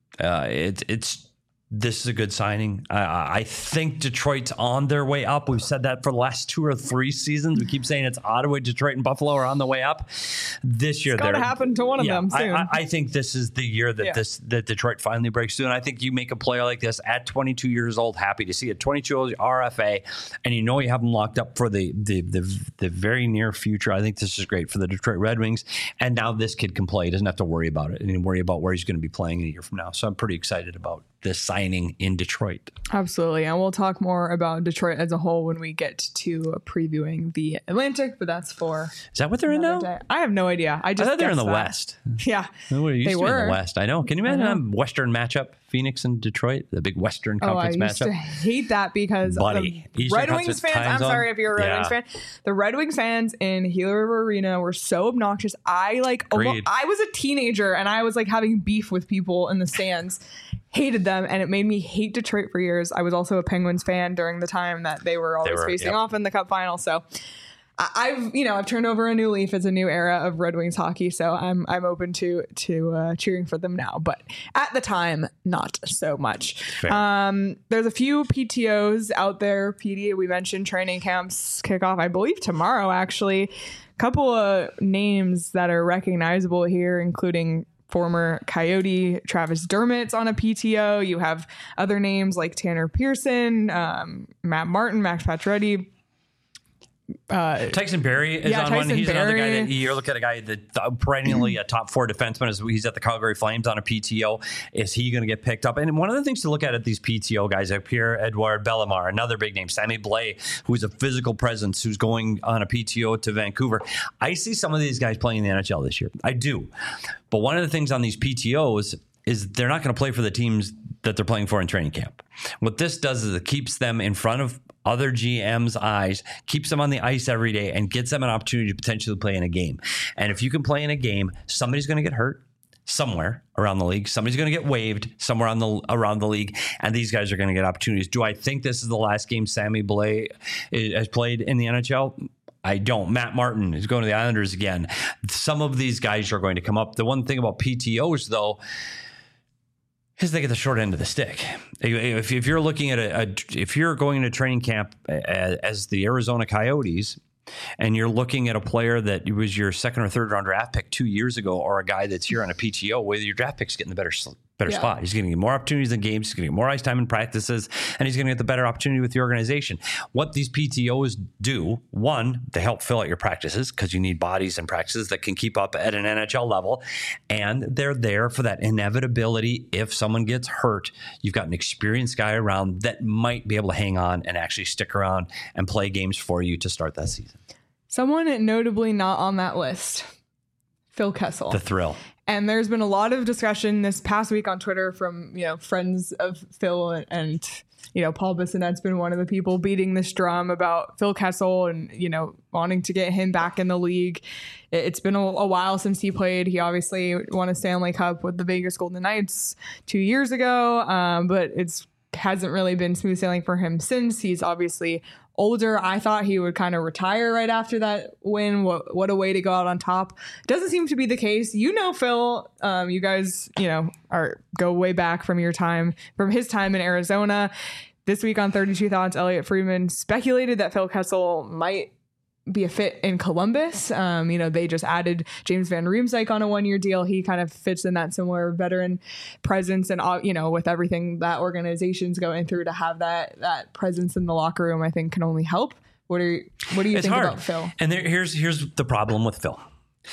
Speaker 2: This is a good signing. I think Detroit's on their way up. We've said that for the last 2 or 3 seasons. We keep saying it's Ottawa, Detroit, and Buffalo are on the way up. This year,
Speaker 1: it's got to happen to one of them soon.
Speaker 2: I think this is the year that that Detroit finally breaks through. And I think you make a player like this at 22 years old, happy to see it. 22 years old RFA, and you have them locked up for the very near future. I think this is great for the Detroit Red Wings. And now this kid can play. He doesn't have to worry about it and worry about where he's going to be playing a year from now. So I'm pretty excited about this signing in Detroit.
Speaker 1: Absolutely. And we'll talk more about Detroit as a whole when we get to previewing the Atlantic, but that's for...
Speaker 2: Is that what they're in now?
Speaker 1: Day. I have no idea. I thought
Speaker 2: they're in the West.
Speaker 1: Yeah.
Speaker 2: They were in the West. I know. Can you imagine a Western matchup? Phoenix and Detroit, the big Western Conference matchup.
Speaker 1: I used to hate that because the Red Wings fans, I'm sorry if you're a Red Wings fan, the Red Wings fans in Gila River Arena were so obnoxious. I was a teenager and I was like having beef with people in the stands. Hated them, and it made me hate Detroit for years. I was also a Penguins fan during the time that they were always facing off in the Cup final. So I've turned over a new leaf. It's a new era of Red Wings hockey. So I'm open to cheering for them now, but at the time, not so much. There's a few PTOs out there. PD, we mentioned training camps kick off, I believe tomorrow, actually. A couple of names that are recognizable here, including former Coyote Travis Dermott's on a PTO. You have other names like Tanner Pearson, Matt Martin, Max Pacioretty.
Speaker 2: Tyson Barrie is on one. He's another guy that you're looking at, a guy that perennially a top 4 defenseman. He's at the Calgary Flames on a PTO. Is he going to get picked up? And one of the things to look at these PTO guys are Pierre-Edouard Bellemare, another big name, Sammy Blais, who's a physical presence, who's going on a PTO to Vancouver. I see some of these guys playing in the NHL this year. I do. But one of the things on these PTOs is they're not going to play for the teams that they're playing for in training camp. What this does is it keeps them in front of other GM's eyes, keeps them on the ice every day, and gets them an opportunity to potentially play in a game. And if you can play in a game, somebody's going to get hurt somewhere around the league. Somebody's going to get waived somewhere around the league, and these guys are going to get opportunities. Do I think this is the last game Sammy Blais has played in the NHL? I don't. Matt Martin is going to the Islanders again. Some of these guys are going to come up. The one thing about PTOs, though, is they get the short end of the stick. If you're looking at if you're going to training camp as the Arizona Coyotes, and you're looking at a player that was your 2nd or 3rd round draft pick 2 years ago, or a guy that's here on a PTO, whether your draft pick's getting the better spot. He's going to get more opportunities in games. He's going to get more ice time in practices, and he's going to get the better opportunity with the organization. What these PTOs do, one, they help fill out your practices because you need bodies and practices that can keep up at an NHL level, and they're there for that inevitability. If someone gets hurt, you've got an experienced guy around that might be able to hang on and actually stick around and play games for you to start that season.
Speaker 1: Someone notably not on that list, Phil Kessel.
Speaker 2: The thrill.
Speaker 1: And there's been a lot of discussion this past week on Twitter from, friends of Phil and Paul Bissonnette's been one of the people beating this drum about Phil Kessel and, wanting to get him back in the league. It's been a while since he played. He obviously won a Stanley Cup with the Vegas Golden Knights 2 years ago, but hasn't really been smooth sailing for him since. He's obviously older. I thought he would kind of retire right after that win. What a way to go out on top. Doesn't seem to be the case. Phil, you guys, go way back from his time in Arizona. This week on 32 Thoughts, Elliot Friedman speculated that Phil Kessel might be a fit in Columbus. They just added James Van Riemsdyk on a 1-year deal. He kind of fits in that similar veteran presence, and with everything that organization's going through, to have that presence in the locker room, I think can only help. What do you think about Phil?
Speaker 2: And here's the problem with Phil.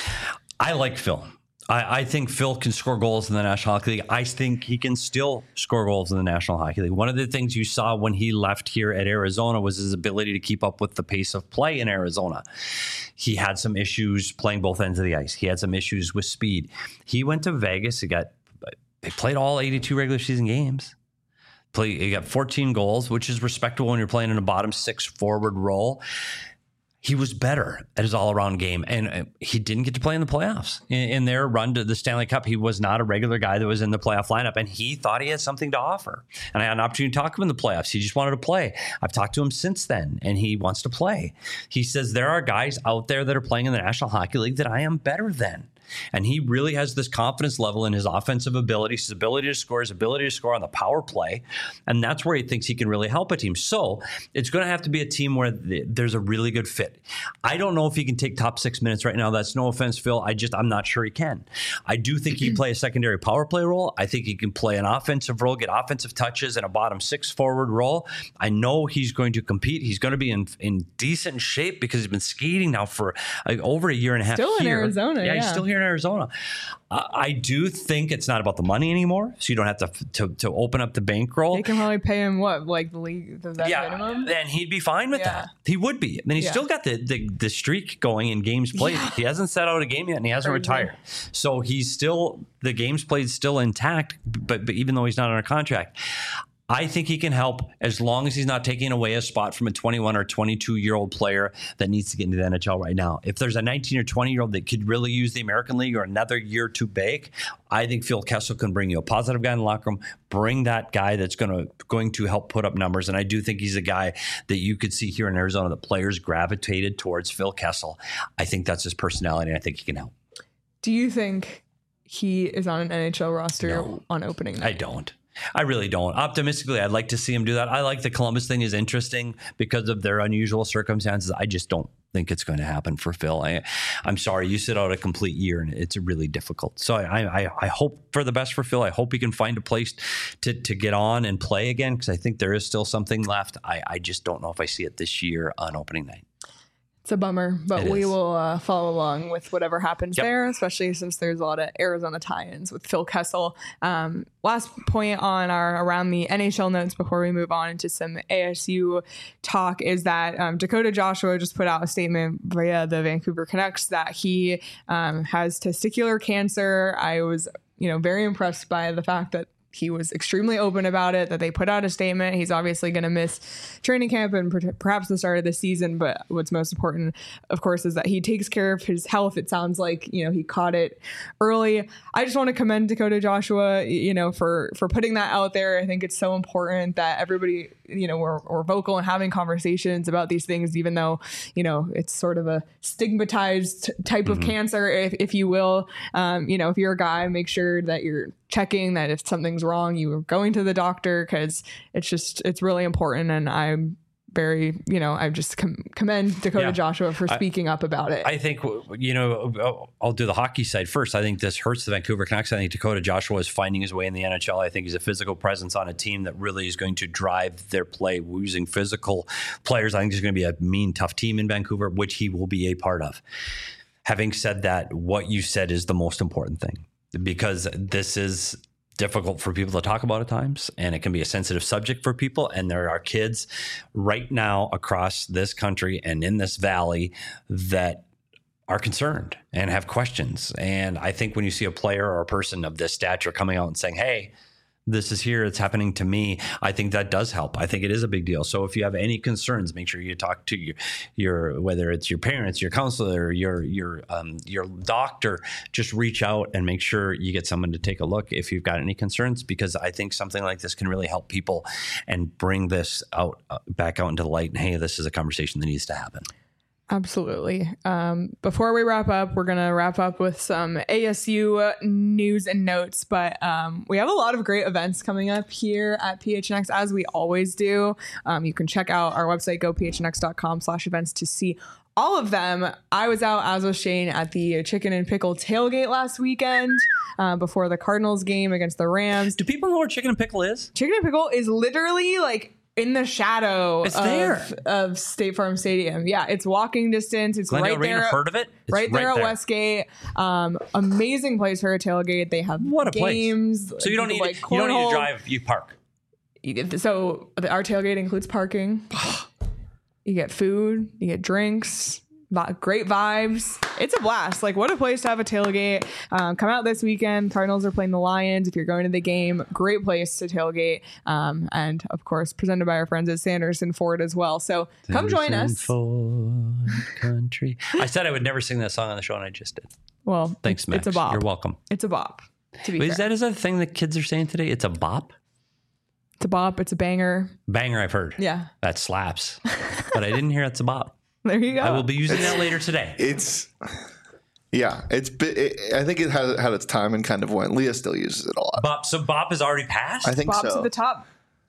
Speaker 2: I like Phil. I think Phil can score goals in the National Hockey League. I think he can still score goals in the National Hockey League. One of the things you saw when he left here at Arizona was his ability to keep up with the pace of play in Arizona. He had some issues playing both ends of the ice. He had some issues with speed. He went to Vegas. He played all 82 regular season games. He got 14 goals, which is respectable when you're playing in a bottom 6 forward role. He was better at his all-around game, and he didn't get to play in the playoffs. In their run to the Stanley Cup, he was not a regular guy that was in the playoff lineup, and he thought he had something to offer. And I had an opportunity to talk to him in the playoffs. He just wanted to play. I've talked to him since then, and he wants to play. He says, there are guys out there that are playing in the National Hockey League that I am better than. And he really has this confidence level in his offensive ability, his ability to score, his ability to score on the power play. And that's where he thinks he can really help a team. So it's going to have to be a team where there's a really good fit. I don't know if he can take top 6 minutes right now. That's no offense, Phil. I'm not sure he can. I do think he can play a secondary power play role. I think he can play an offensive role, get offensive touches in a bottom 6 forward role. I know he's going to compete. He's going to be in decent shape because he's been skating now for over a year and a half.
Speaker 1: Still
Speaker 2: here.
Speaker 1: In Arizona.
Speaker 2: Yeah, he's still here in Arizona. I do think it's not about the money anymore, so you don't have to open up the bankroll.
Speaker 1: They can probably pay him the league minimum.
Speaker 2: Then he'd be fine with that. He would be. I mean, he's still got the streak going in games played. Yeah. He hasn't set out a game yet, and he hasn't retired. So he's still, the games played still intact. But even though he's not under contract, I think he can help as long as he's not taking away a spot from a 21 or 22-year-old player that needs to get into the NHL right now. If there's a 19 or 20-year-old that could really use the American League or another year to bake, I think Phil Kessel can bring you a positive guy in the locker room, bring that guy that's going to help put up numbers. And I do think he's a guy that you could see here in Arizona that players gravitated towards Phil Kessel. I think that's his personality, and I think he can help.
Speaker 1: Do you think he is on an NHL roster on opening night?
Speaker 2: I don't. I really don't. Optimistically, I'd like to see him do that. I like the Columbus thing is interesting because of their unusual circumstances. I just don't think it's going to happen for Phil. I'm sorry, you sit out a complete year and it's really difficult. So I hope for the best for Phil. I hope he can find a place to get on and play again because I think there is still something left. I just don't know if I see it this year on opening night.
Speaker 1: It's a bummer, but we will follow along with whatever happens there, especially since there's a lot of Arizona tie-ins with Phil Kessel. Last point on around the NHL notes before we move on into some ASU talk is that Dakota Joshua just put out a statement via the Vancouver Canucks that he has testicular cancer. I was, very impressed by the fact that he was extremely open about it, that they put out a statement. He's obviously going to miss training camp and perhaps the start of the season. But what's most important, of course, is that he takes care of his health. It sounds like, he caught it early. I just want to commend Dakota Joshua, for putting that out there. I think it's so important that everybody, we're vocal and having conversations about these things, even though, it's sort of a stigmatized type of cancer, if you will. If you're a guy, make sure that you're checking that if something's wrong, you are going to the doctor because it's really important. And I'm very, I just commend Dakota Joshua for speaking up about it.
Speaker 2: I think, I'll do the hockey side first. I think this hurts the Vancouver Canucks. I think Dakota Joshua is finding his way in the NHL. I think he's a physical presence on a team that really is going to drive their play using physical players. I think there's going to be a mean, tough team in Vancouver, which he will be a part of. Having said that, what you said is the most important thing. Because this is difficult for people to talk about at times, and it can be a sensitive subject for people. And there are kids right now across this country and in this valley that are concerned and have questions. And I think when you see a player or a person of this stature coming out and saying, hey, this is here. It's happening to me. I think that does help. I think it is a big deal. So if you have any concerns, make sure you talk to your whether it's your parents, your counselor, your doctor. Just reach out and make sure you get someone to take a look if you've got any concerns, because I think something like this can really help people and bring this out back out into the light. And hey, this is a conversation that needs to happen.
Speaker 1: Absolutely. Before we wrap up, we're going to wrap up with some ASU news and notes, but we have a lot of great events coming up here at PHNX, as we always do. You can check out our website, gophnx.com/events, to see all of them. I was out, as was Shane, at the Chicken and Pickle tailgate last weekend before the Cardinals game against the Rams.
Speaker 2: Do people know where Chicken and Pickle is?
Speaker 1: Chicken and Pickle is literally like in the shadow of State Farm Stadium. Yeah, it's walking distance. It's
Speaker 2: Glendale
Speaker 1: right there.
Speaker 2: Heard of it? It's
Speaker 1: right there at Westgate. Amazing place for a tailgate. They have games.
Speaker 2: Place. So you don't need to drive. You park.
Speaker 1: So our tailgate includes parking. You get food. You get drinks. Great vibes. It's a blast. Like, what a place to have a tailgate. Come out this weekend. Cardinals are playing the Lions. If you're going to the game, great place to tailgate. And of course, presented by our friends at Sanderson Ford as well. So come join us.
Speaker 2: Ford Country. I said I would never sing that song on the show, and I just did.
Speaker 1: Well,
Speaker 2: thanks, Max.
Speaker 1: It's a bop.
Speaker 2: You're welcome.
Speaker 1: It's a bop. To be fair.
Speaker 2: Is that a thing that kids are saying today? It's a bop?
Speaker 1: It's a bop. It's a banger.
Speaker 2: Banger, I've heard.
Speaker 1: Yeah.
Speaker 2: That slaps. But I didn't hear it's a bop.
Speaker 1: There you go.
Speaker 2: I will be using that later today.
Speaker 4: I think it had its time and kind of went. Leah still uses it a lot.
Speaker 2: Bop. So bop is already passed?
Speaker 4: I think
Speaker 1: Bop's
Speaker 4: so.
Speaker 1: at the top.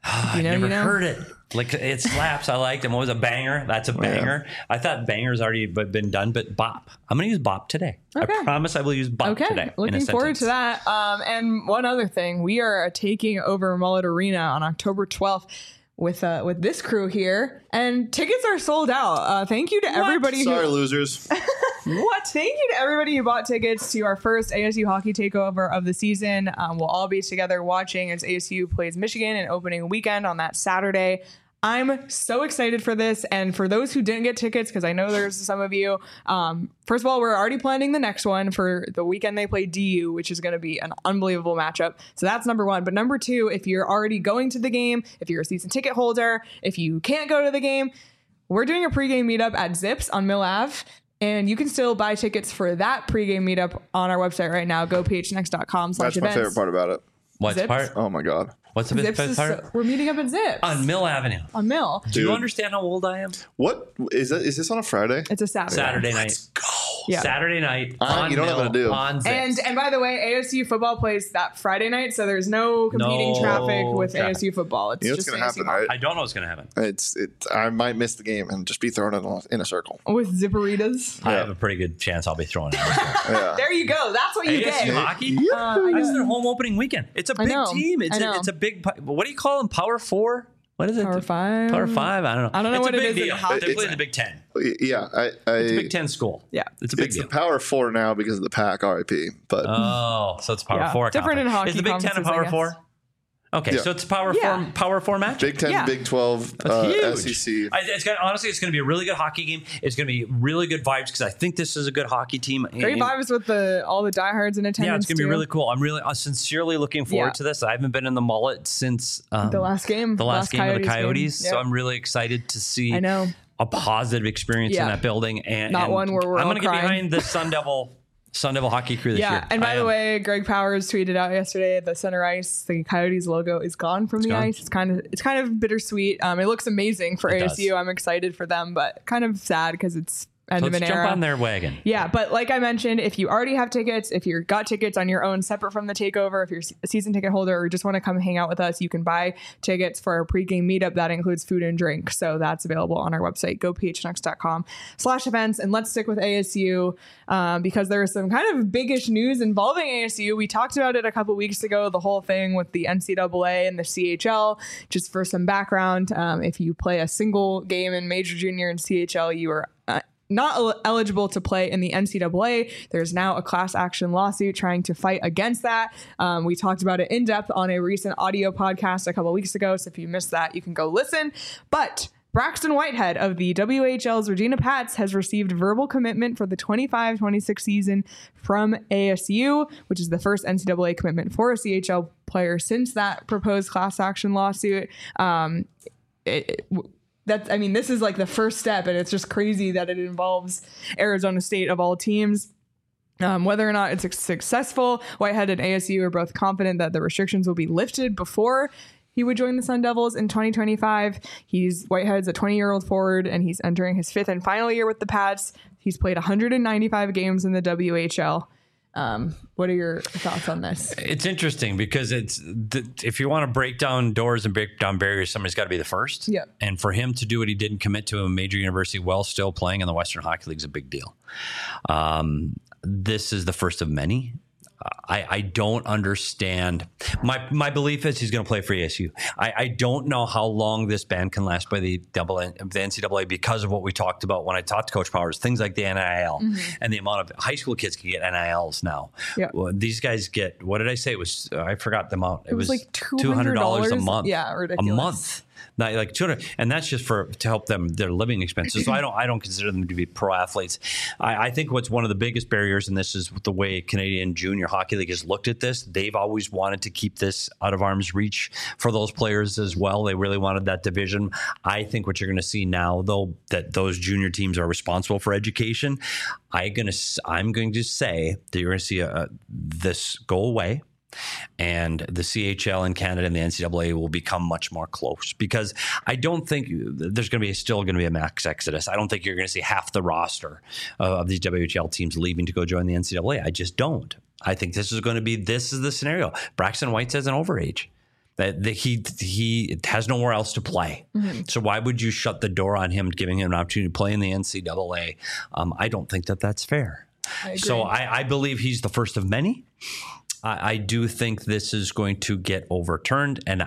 Speaker 2: I never heard it. Like, it slaps. I liked it. What was a banger? That's a banger. Yeah. I thought banger's already been done, but bop. I'm going to use bop today. Okay. I promise I will use bop today.
Speaker 1: Looking forward to that. And one other thing, we are taking over Mullet Arena on October 12th. With this crew here, and tickets are sold out. Thank you to everybody.
Speaker 4: Sorry, losers.
Speaker 1: What? Thank you to everybody who bought tickets to our first ASU hockey takeover of the season. We'll all be together watching as ASU plays Michigan in opening weekend on that Saturday. I'm so excited for this. And for those who didn't get tickets, because I know there's some of you, first of all, we're already planning the next one for the weekend they play DU, which is going to be an unbelievable matchup. So that's number one. But number two, if you're already going to the game, if you're a season ticket holder, if you can't go to the game, we're doing a pregame meetup at Zips on Mill Ave. And you can still buy tickets for that pregame meetup on our website right now, gophnx.com/events.
Speaker 4: That's my favorite part about it.
Speaker 2: What's part?
Speaker 4: Oh my God.
Speaker 2: What's the best part?
Speaker 1: We're meeting up at Zips.
Speaker 2: On Mill Avenue.
Speaker 1: On Mill.
Speaker 2: Do you understand how old I am?
Speaker 4: What is that? Is this on a Friday?
Speaker 1: It's a Saturday.
Speaker 2: Saturday night.
Speaker 4: Let's go.
Speaker 1: Yeah.
Speaker 2: Saturday night on
Speaker 4: you don't
Speaker 2: Mill,
Speaker 4: know what to do.
Speaker 2: on Zips.
Speaker 1: And by the way, ASU football plays that Friday night, so there's no competing traffic with ASU football. It's just
Speaker 4: going to happen,
Speaker 1: ASU
Speaker 4: right?
Speaker 2: I don't know what's going to happen.
Speaker 4: I might miss the game and just be thrown in a circle
Speaker 1: with zipperitas.
Speaker 2: I have a pretty good chance I'll be throwing it.
Speaker 4: Yeah.
Speaker 1: There you go. That's what you
Speaker 2: ASU
Speaker 1: get.
Speaker 2: hockey?
Speaker 1: I
Speaker 2: That's their home opening weekend. It's a big team. It's a big. What do you call them? Power 4? What is it?
Speaker 1: Power 5?
Speaker 2: Power 5? I don't know.
Speaker 1: I don't know what it is.
Speaker 2: They play in the Big Ten.
Speaker 4: Yeah,
Speaker 2: it's a Big Ten school.
Speaker 1: Yeah,
Speaker 2: it's a big deal.
Speaker 4: It's the Power 4 now because of the Pack RIP. But
Speaker 2: so it's Power 4.
Speaker 1: Different in hockey.
Speaker 2: Is the Big Ten a Power 4? Okay, so it's Power 4 match.
Speaker 4: Big 10, Big 12, SEC.
Speaker 2: Honestly, it's going to be a really good hockey game. It's going to be really good vibes because I think this is a good hockey team.
Speaker 1: Great vibes with all the diehards in attendance.
Speaker 2: Yeah, it's going to be really cool. I'm really sincerely looking forward to this. I haven't been in the Mullet since
Speaker 1: the last game.
Speaker 2: The last game of the Coyotes.
Speaker 1: Yep.
Speaker 2: So I'm really excited to see a positive experience in that building. And
Speaker 1: one where we're
Speaker 2: I'm
Speaker 1: going
Speaker 2: to get behind the Sun Devil hockey crew this year.
Speaker 1: Yeah, and by the way, Greg Powers tweeted out yesterday the center ice, the Coyotes logo is gone from the ice. It's kind of bittersweet. It looks amazing for ASU. I'm excited for them, but kind of sad because it's end of an era.
Speaker 2: Jump on their wagon.
Speaker 1: Yeah, but like I mentioned, if you already have tickets, if you've got tickets on your own separate from the takeover, if you're a season ticket holder or just want to come hang out with us, you can buy tickets for our pregame meetup. That includes food and drink. So that's available on our website, gophnx.com/events. And let's stick with ASU because there is some kind of biggish news involving ASU. We talked about it a couple weeks ago, the whole thing with the NCAA and the CHL. Just for some background, if you play a single game in Major Junior and CHL, you are not eligible to play in the NCAA. There's now a class action lawsuit trying to fight against that. We talked about it in depth on a recent audio podcast a couple weeks ago. So if you missed that, you can go listen. But Braxton Whitehead of the WHL's Regina Pats has received verbal commitment for the 25-26 season from ASU, which is the first NCAA commitment for a CHL player since that proposed class action lawsuit. This is like the first step, and it's just crazy that it involves Arizona State of all teams. Whether or not it's successful, Whitehead and ASU are both confident that the restrictions will be lifted before he would join the Sun Devils in 2025. Whitehead's a 20-year-old forward, and he's entering his 5th and final year with the Pats. He's played 195 games in the WHL. What are your thoughts on this?
Speaker 2: It's interesting because if you want to break down doors and break down barriers, somebody's got to be the first.
Speaker 1: Yeah.
Speaker 2: And for him to do what he did and commit to a major university while still playing in the Western Hockey League is a big deal. This is the first of many. I don't understand. My belief is he's going to play for ASU. I don't know how long this ban can last by the NCAA because of what we talked about when I talked to Coach Powers, things like the NIL and the amount of high school kids can get NILs now. Yeah. Well, these guys get, what did I say? It was, I forgot the amount. It was like $200 a month.
Speaker 1: Yeah, ridiculous.
Speaker 2: A month. Not like 200, and that's just to help them their living expenses. So I don't consider them to be pro athletes. I think what's one of the biggest barriers in this is the way Canadian Junior Hockey League has looked at this. They've always wanted to keep this out of arm's reach for those players as well. They really wanted that division. I think what you're going to see now, though, that those junior teams are responsible for education. I'm going to say that you're going to see this go away. And the CHL in Canada and the NCAA will become much more close because I don't think there's still going to be a max exodus. I don't think you're going to see half the roster of these WHL teams leaving to go join the NCAA. I just don't. I think this is the scenario. Braxton White says an overage. That he has nowhere else to play. Mm-hmm. So why would you shut the door on him, giving him an opportunity to play in the NCAA? I don't think that's fair. So I believe he's the first of many. I do think this is going to get overturned, and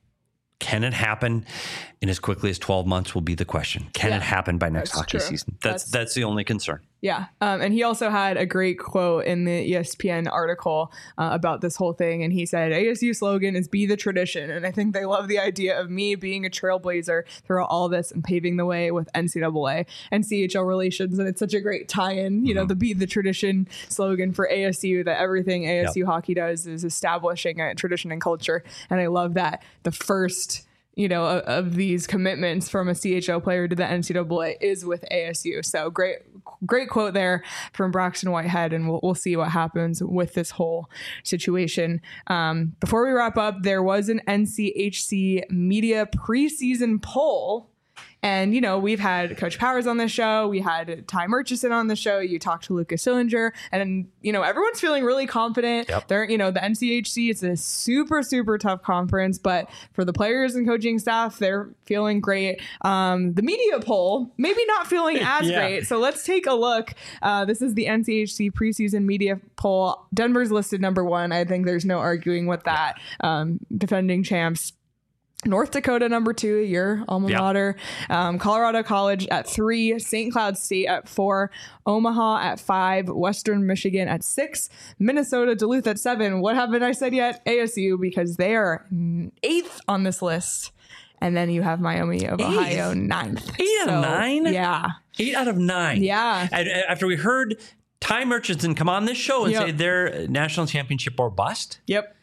Speaker 2: can it happen in as quickly as 12 months will be the question. Can it happen by next hockey season? That's the only concern.
Speaker 1: Yeah. And he also had a great quote in the ESPN article about this whole thing. And he said, ASU slogan is be the tradition. And I think they love the idea of me being a trailblazer through all this and paving the way with NCAA and CHL relations. And it's such a great tie-in, you know, the be the tradition slogan for ASU, that everything ASU hockey does is establishing a tradition and culture. And I love that the first of these commitments from a CHL player to the NCAA is with ASU. So great quote there from Braxton Whitehead, and we'll see what happens with this whole situation. Before we wrap up, there was an NCHC media preseason poll. And, we've had Coach Powers on the show. We had Ty Murchison on the show. You talked to Lucas Sillinger. And, everyone's feeling really confident. Yep. They're, the NCHC, it's a super, super tough conference. But for the players and coaching staff, they're feeling great. The media poll, maybe not feeling as great. So let's take a look. This is the NCHC preseason media poll. Denver's listed number 1. I think there's no arguing with that. Defending champs. North Dakota number 2, your alma mater, Colorado College at 3, St. Cloud State at 4, Omaha at 5, Western Michigan at 6, Minnesota, Duluth at 7. What haven't I said yet? ASU, because they are 8th on this list. And then you have Miami of Ohio 9th.
Speaker 2: 8 out of 9?
Speaker 1: Yeah.
Speaker 2: 8 out of 9.
Speaker 1: Yeah.
Speaker 2: And after we heard Ty Murchison come on this show and say they're national championship or bust.
Speaker 1: Yep.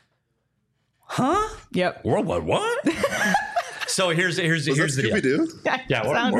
Speaker 2: Huh?
Speaker 1: Yep.
Speaker 2: What? So here's the deal.
Speaker 1: Yeah.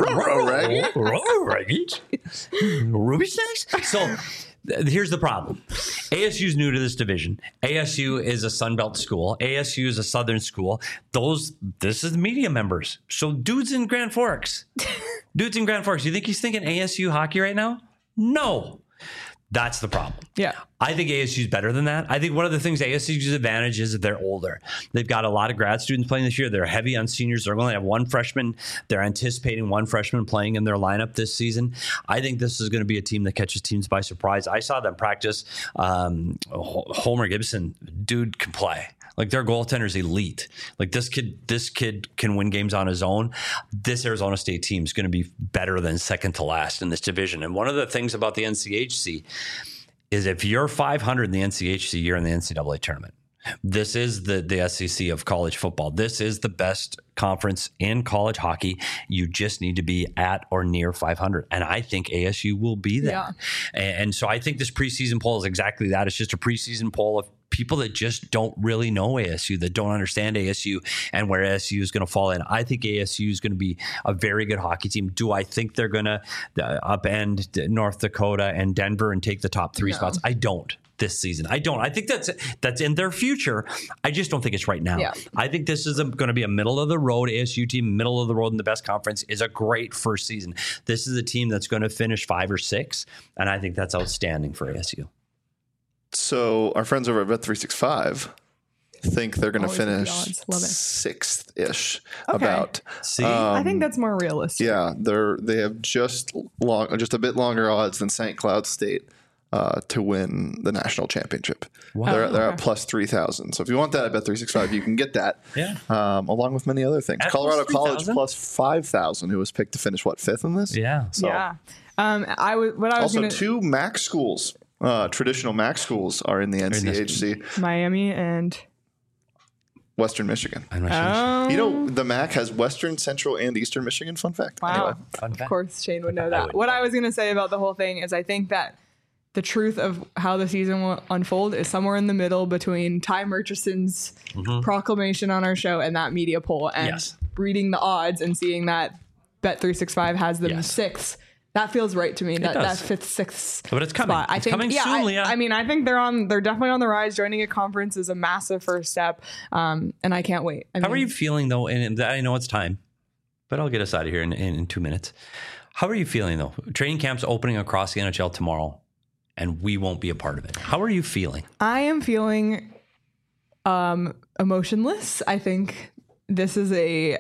Speaker 2: Ruby Snacks. So here's the problem. ASU is new to this division. ASU is a Sun Belt school. ASU is a Southern school. This is media members. So dudes in Grand Forks. You think he's thinking ASU hockey right now? No. That's the problem.
Speaker 1: Yeah.
Speaker 2: I think ASU is better than that. I think one of the things ASU's advantage is that they're older. They've got a lot of grad students playing this year. They're heavy on seniors. They're going to have one freshman. They're anticipating one freshman playing in their lineup this season. I think this is going to be a team that catches teams by surprise. I saw them practice. Homer Gibson, dude can play. Like, their goaltender's elite. Like, this kid can win games on his own. This Arizona State team is going to be better than second to last in this division. And one of the things about the NCHC is if you're 500 in the NCHC, you're in the NCAA tournament. This is the SEC of college football. This is the best conference in college hockey. You just need to be at or near 500. And I think ASU will be there.
Speaker 1: Yeah.
Speaker 2: And so I think this preseason poll is exactly that. It's just a preseason poll of people that just don't really know ASU, that don't understand ASU and where ASU is going to fall in. I think ASU is going to be a very good hockey team. Do I think they're going to upend North Dakota and Denver and take the top 3 spots? I don't. This season, I don't. I think that's in their future. I just don't think it's right now.
Speaker 1: Yeah.
Speaker 2: I think this is going to be a middle of the road ASU team. Middle of the road in the best conference is a great first season. This is a team that's going to finish 5 or 6, and I think that's outstanding for ASU.
Speaker 4: So our friends over at Bet365 think they're going to finish
Speaker 1: odds. Love it.
Speaker 4: 6th-ish.
Speaker 1: Okay.
Speaker 4: About.
Speaker 2: See,
Speaker 1: I think that's more realistic.
Speaker 4: Yeah, they have just a bit longer odds than St. Cloud State to win the national championship.
Speaker 2: Wow.
Speaker 4: They're at plus 3,000. So if you want that at Bet365, you can get that.
Speaker 2: Yeah.
Speaker 4: Along with many other things.
Speaker 2: At
Speaker 4: Colorado
Speaker 2: plus
Speaker 4: College
Speaker 2: 3,000?
Speaker 4: plus 5,000, who was picked to finish 5th in this?
Speaker 2: yeah.
Speaker 4: So,
Speaker 1: Yeah. I was
Speaker 4: also,
Speaker 1: gonna,
Speaker 4: 2 MAC schools, traditional MAC schools, are in the NCHC.
Speaker 1: Miami and
Speaker 4: Western Michigan.
Speaker 2: I'm not sure.
Speaker 4: You know, the MAC has Western, Central, and Eastern Michigan. Fun fact.
Speaker 1: Wow.
Speaker 4: Anyway.
Speaker 2: Fun fact.
Speaker 1: Of course, Shane would know
Speaker 2: I
Speaker 1: that.
Speaker 2: would
Speaker 1: What
Speaker 2: know.
Speaker 1: I was going to say about the whole thing is I think that the truth of how the season will unfold is somewhere in the middle between Ty Murchison's proclamation on our show and that media poll, and
Speaker 2: Yes.
Speaker 1: reading the odds and seeing that Bet365 has them
Speaker 2: Yes.
Speaker 1: 6th. That feels right to me. That
Speaker 2: does.
Speaker 1: 5th, 6th.
Speaker 2: But it's coming.
Speaker 1: Spot. I
Speaker 2: It's
Speaker 1: think,
Speaker 2: coming soon, Leah.
Speaker 1: I mean, I think they're definitely on the rise. Joining a conference is a massive first step, and I can't wait.
Speaker 2: How are you feeling, though? And I know it's time, but I'll get us out of here in 2 minutes. How are you feeling, though? Training camp's opening across the NHL tomorrow, and we won't be a part of it. How are you feeling?
Speaker 1: I am feeling emotionless. I think this has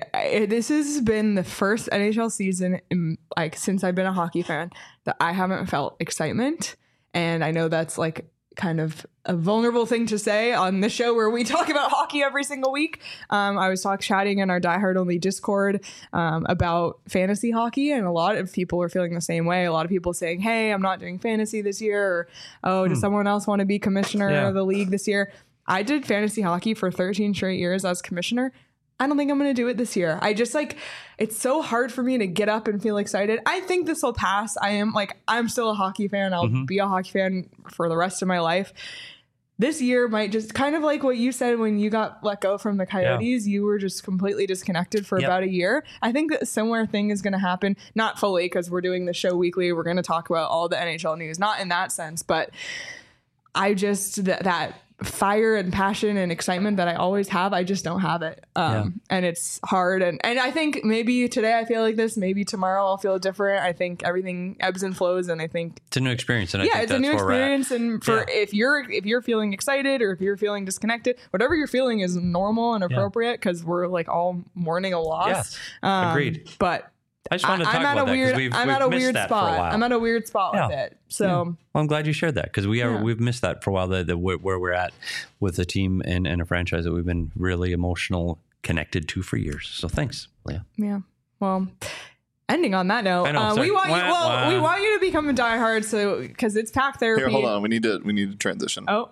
Speaker 1: been the first NHL season since I've been a hockey fan that I haven't felt excitement. And I know that's kind of a vulnerable thing to say on the show where we talk about hockey every single week. I was chatting in our Die Hard Only Discord about fantasy hockey, and a lot of people are feeling the same way. A lot of people saying, hey, I'm not doing fantasy this year, or, oh, does someone else want to be commissioner of the league this year? I did fantasy hockey for 13 straight years as commissioner. I don't think I'm going to do it this year. I just it's so hard for me to get up and feel excited. I think this will pass. I'm still a hockey fan. I'll be a hockey fan for the rest of my life. This year might just kind of like what you said when you got let go from the Coyotes, you were just completely disconnected for about a year. I think that a similar thing is going to happen, not fully because we're doing the show weekly. We're going to talk about all the NHL news, not in that sense, but I just, that fire and passion and excitement that I always have, I just don't have it. And it's hard. And I think maybe today I feel like this, maybe tomorrow I'll feel different. I think everything ebbs and flows, and I think
Speaker 2: it's a new experience. And I think
Speaker 1: it's a new experience. And if you're feeling excited or if you're feeling disconnected, whatever you're feeling is normal and appropriate, because we're all mourning a loss.
Speaker 2: Yes. Agreed.
Speaker 1: But
Speaker 2: I just wanted to talk about that because
Speaker 1: I'm at a
Speaker 2: missed
Speaker 1: weird
Speaker 2: that for a
Speaker 1: spot.
Speaker 2: while.
Speaker 1: I'm at a weird spot with it. So
Speaker 2: well, I'm glad you shared that, because we've missed that for a while. Where we're at with a team and a franchise that we've been really emotional connected to for years. So thanks, Leah.
Speaker 1: Yeah. Well, ending on that note, we want you to become a diehard, so because it's pack therapy.
Speaker 4: Here, hold on. We need to transition.
Speaker 1: Oh.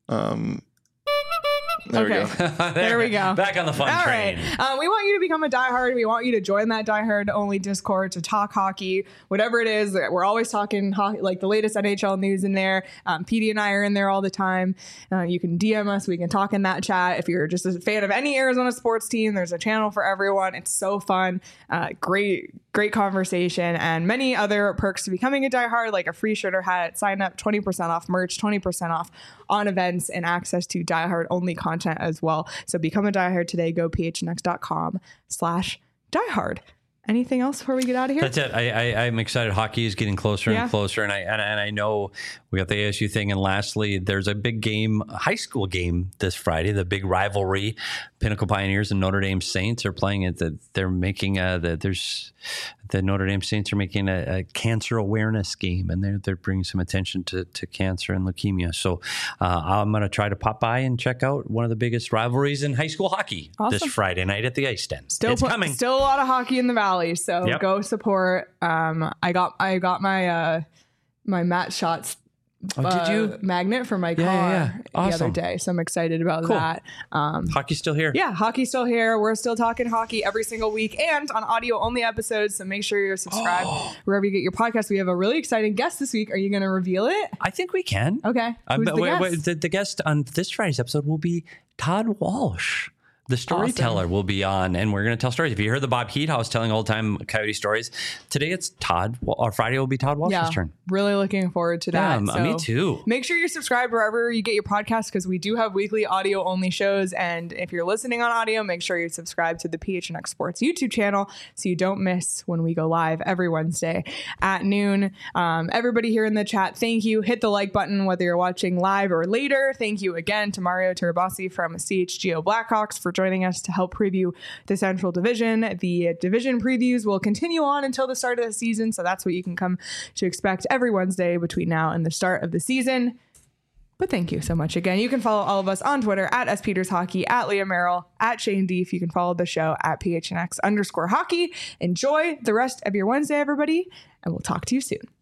Speaker 4: There we go.
Speaker 1: There we go.
Speaker 2: Back on the fun train.
Speaker 1: Right. We want you to become a diehard. We want you to join that diehard only Discord to talk hockey, whatever it is. We're always talking hockey, like the latest NHL news in there. PD and I are in there all the time. You can DM us. We can talk in that chat. If you're just a fan of any Arizona sports team, there's a channel for everyone. It's so fun. Great conversation, and many other perks to becoming a diehard, like a free shirt or hat, sign up, 20% off merch, 20% off on events, and access to diehard only content as well. So become a diehard today. Go phnx.com/diehard. Anything else before we get out of here?
Speaker 2: That's it. I'm excited. Hockey is getting closer and closer, and I know we got the ASU thing. And lastly, there's a big game, a high school game this Friday. The big rivalry, Pinnacle Pioneers and Notre Dame Saints are playing it. They're making the Notre Dame Saints are making a cancer awareness game, and they're bringing some attention to cancer and leukemia. So I'm going to try to pop by and check out one of the biggest rivalries in high school hockey this Friday night at the Ice Den. It's coming.
Speaker 1: Still a lot of hockey in the Valley, so go support. I got my my Matt Shots
Speaker 2: did you?
Speaker 1: Magnet for my car the other
Speaker 2: Awesome.
Speaker 1: day. So I'm excited about that.
Speaker 2: Hockey's still here.
Speaker 1: Yeah, hockey's still here. We're still talking hockey every single week and on audio only episodes. So make sure you're subscribed wherever you get your podcast. We have a really exciting guest this week. Are you going to reveal it?
Speaker 2: I think we can.
Speaker 1: Okay. Who's the guest?
Speaker 2: The guest on this Friday's episode will be Todd Walsh. The storyteller will be on, and we're going to tell stories. If you heard the Bob Heat House telling old time Coyote stories, today it's Todd, or Friday will be Todd Walsh's turn.
Speaker 1: Really looking forward to that.
Speaker 2: Yeah, me too.
Speaker 1: Make sure you're subscribed wherever you get your podcast because we do have weekly audio only shows. And if you're listening on audio, make sure you subscribe to the PHNX Sports YouTube channel so you don't miss when we go live every Wednesday at noon. Everybody here in the chat, thank you. Hit the like button whether you're watching live or later. Thank you again to Mario Terabasi from CHGO Blackhawks for joining us to help preview the Central Division. The division previews will continue on until the start of the season, so that's what you can come to expect every Wednesday between now and the start of the season. But thank you so much again. You can follow all of us on Twitter at SPetersHockey, at Leah Merrill, at Shane Deef. You can follow the show at PHNX_hockey. Enjoy the rest of your Wednesday, everybody, and we'll talk to you soon.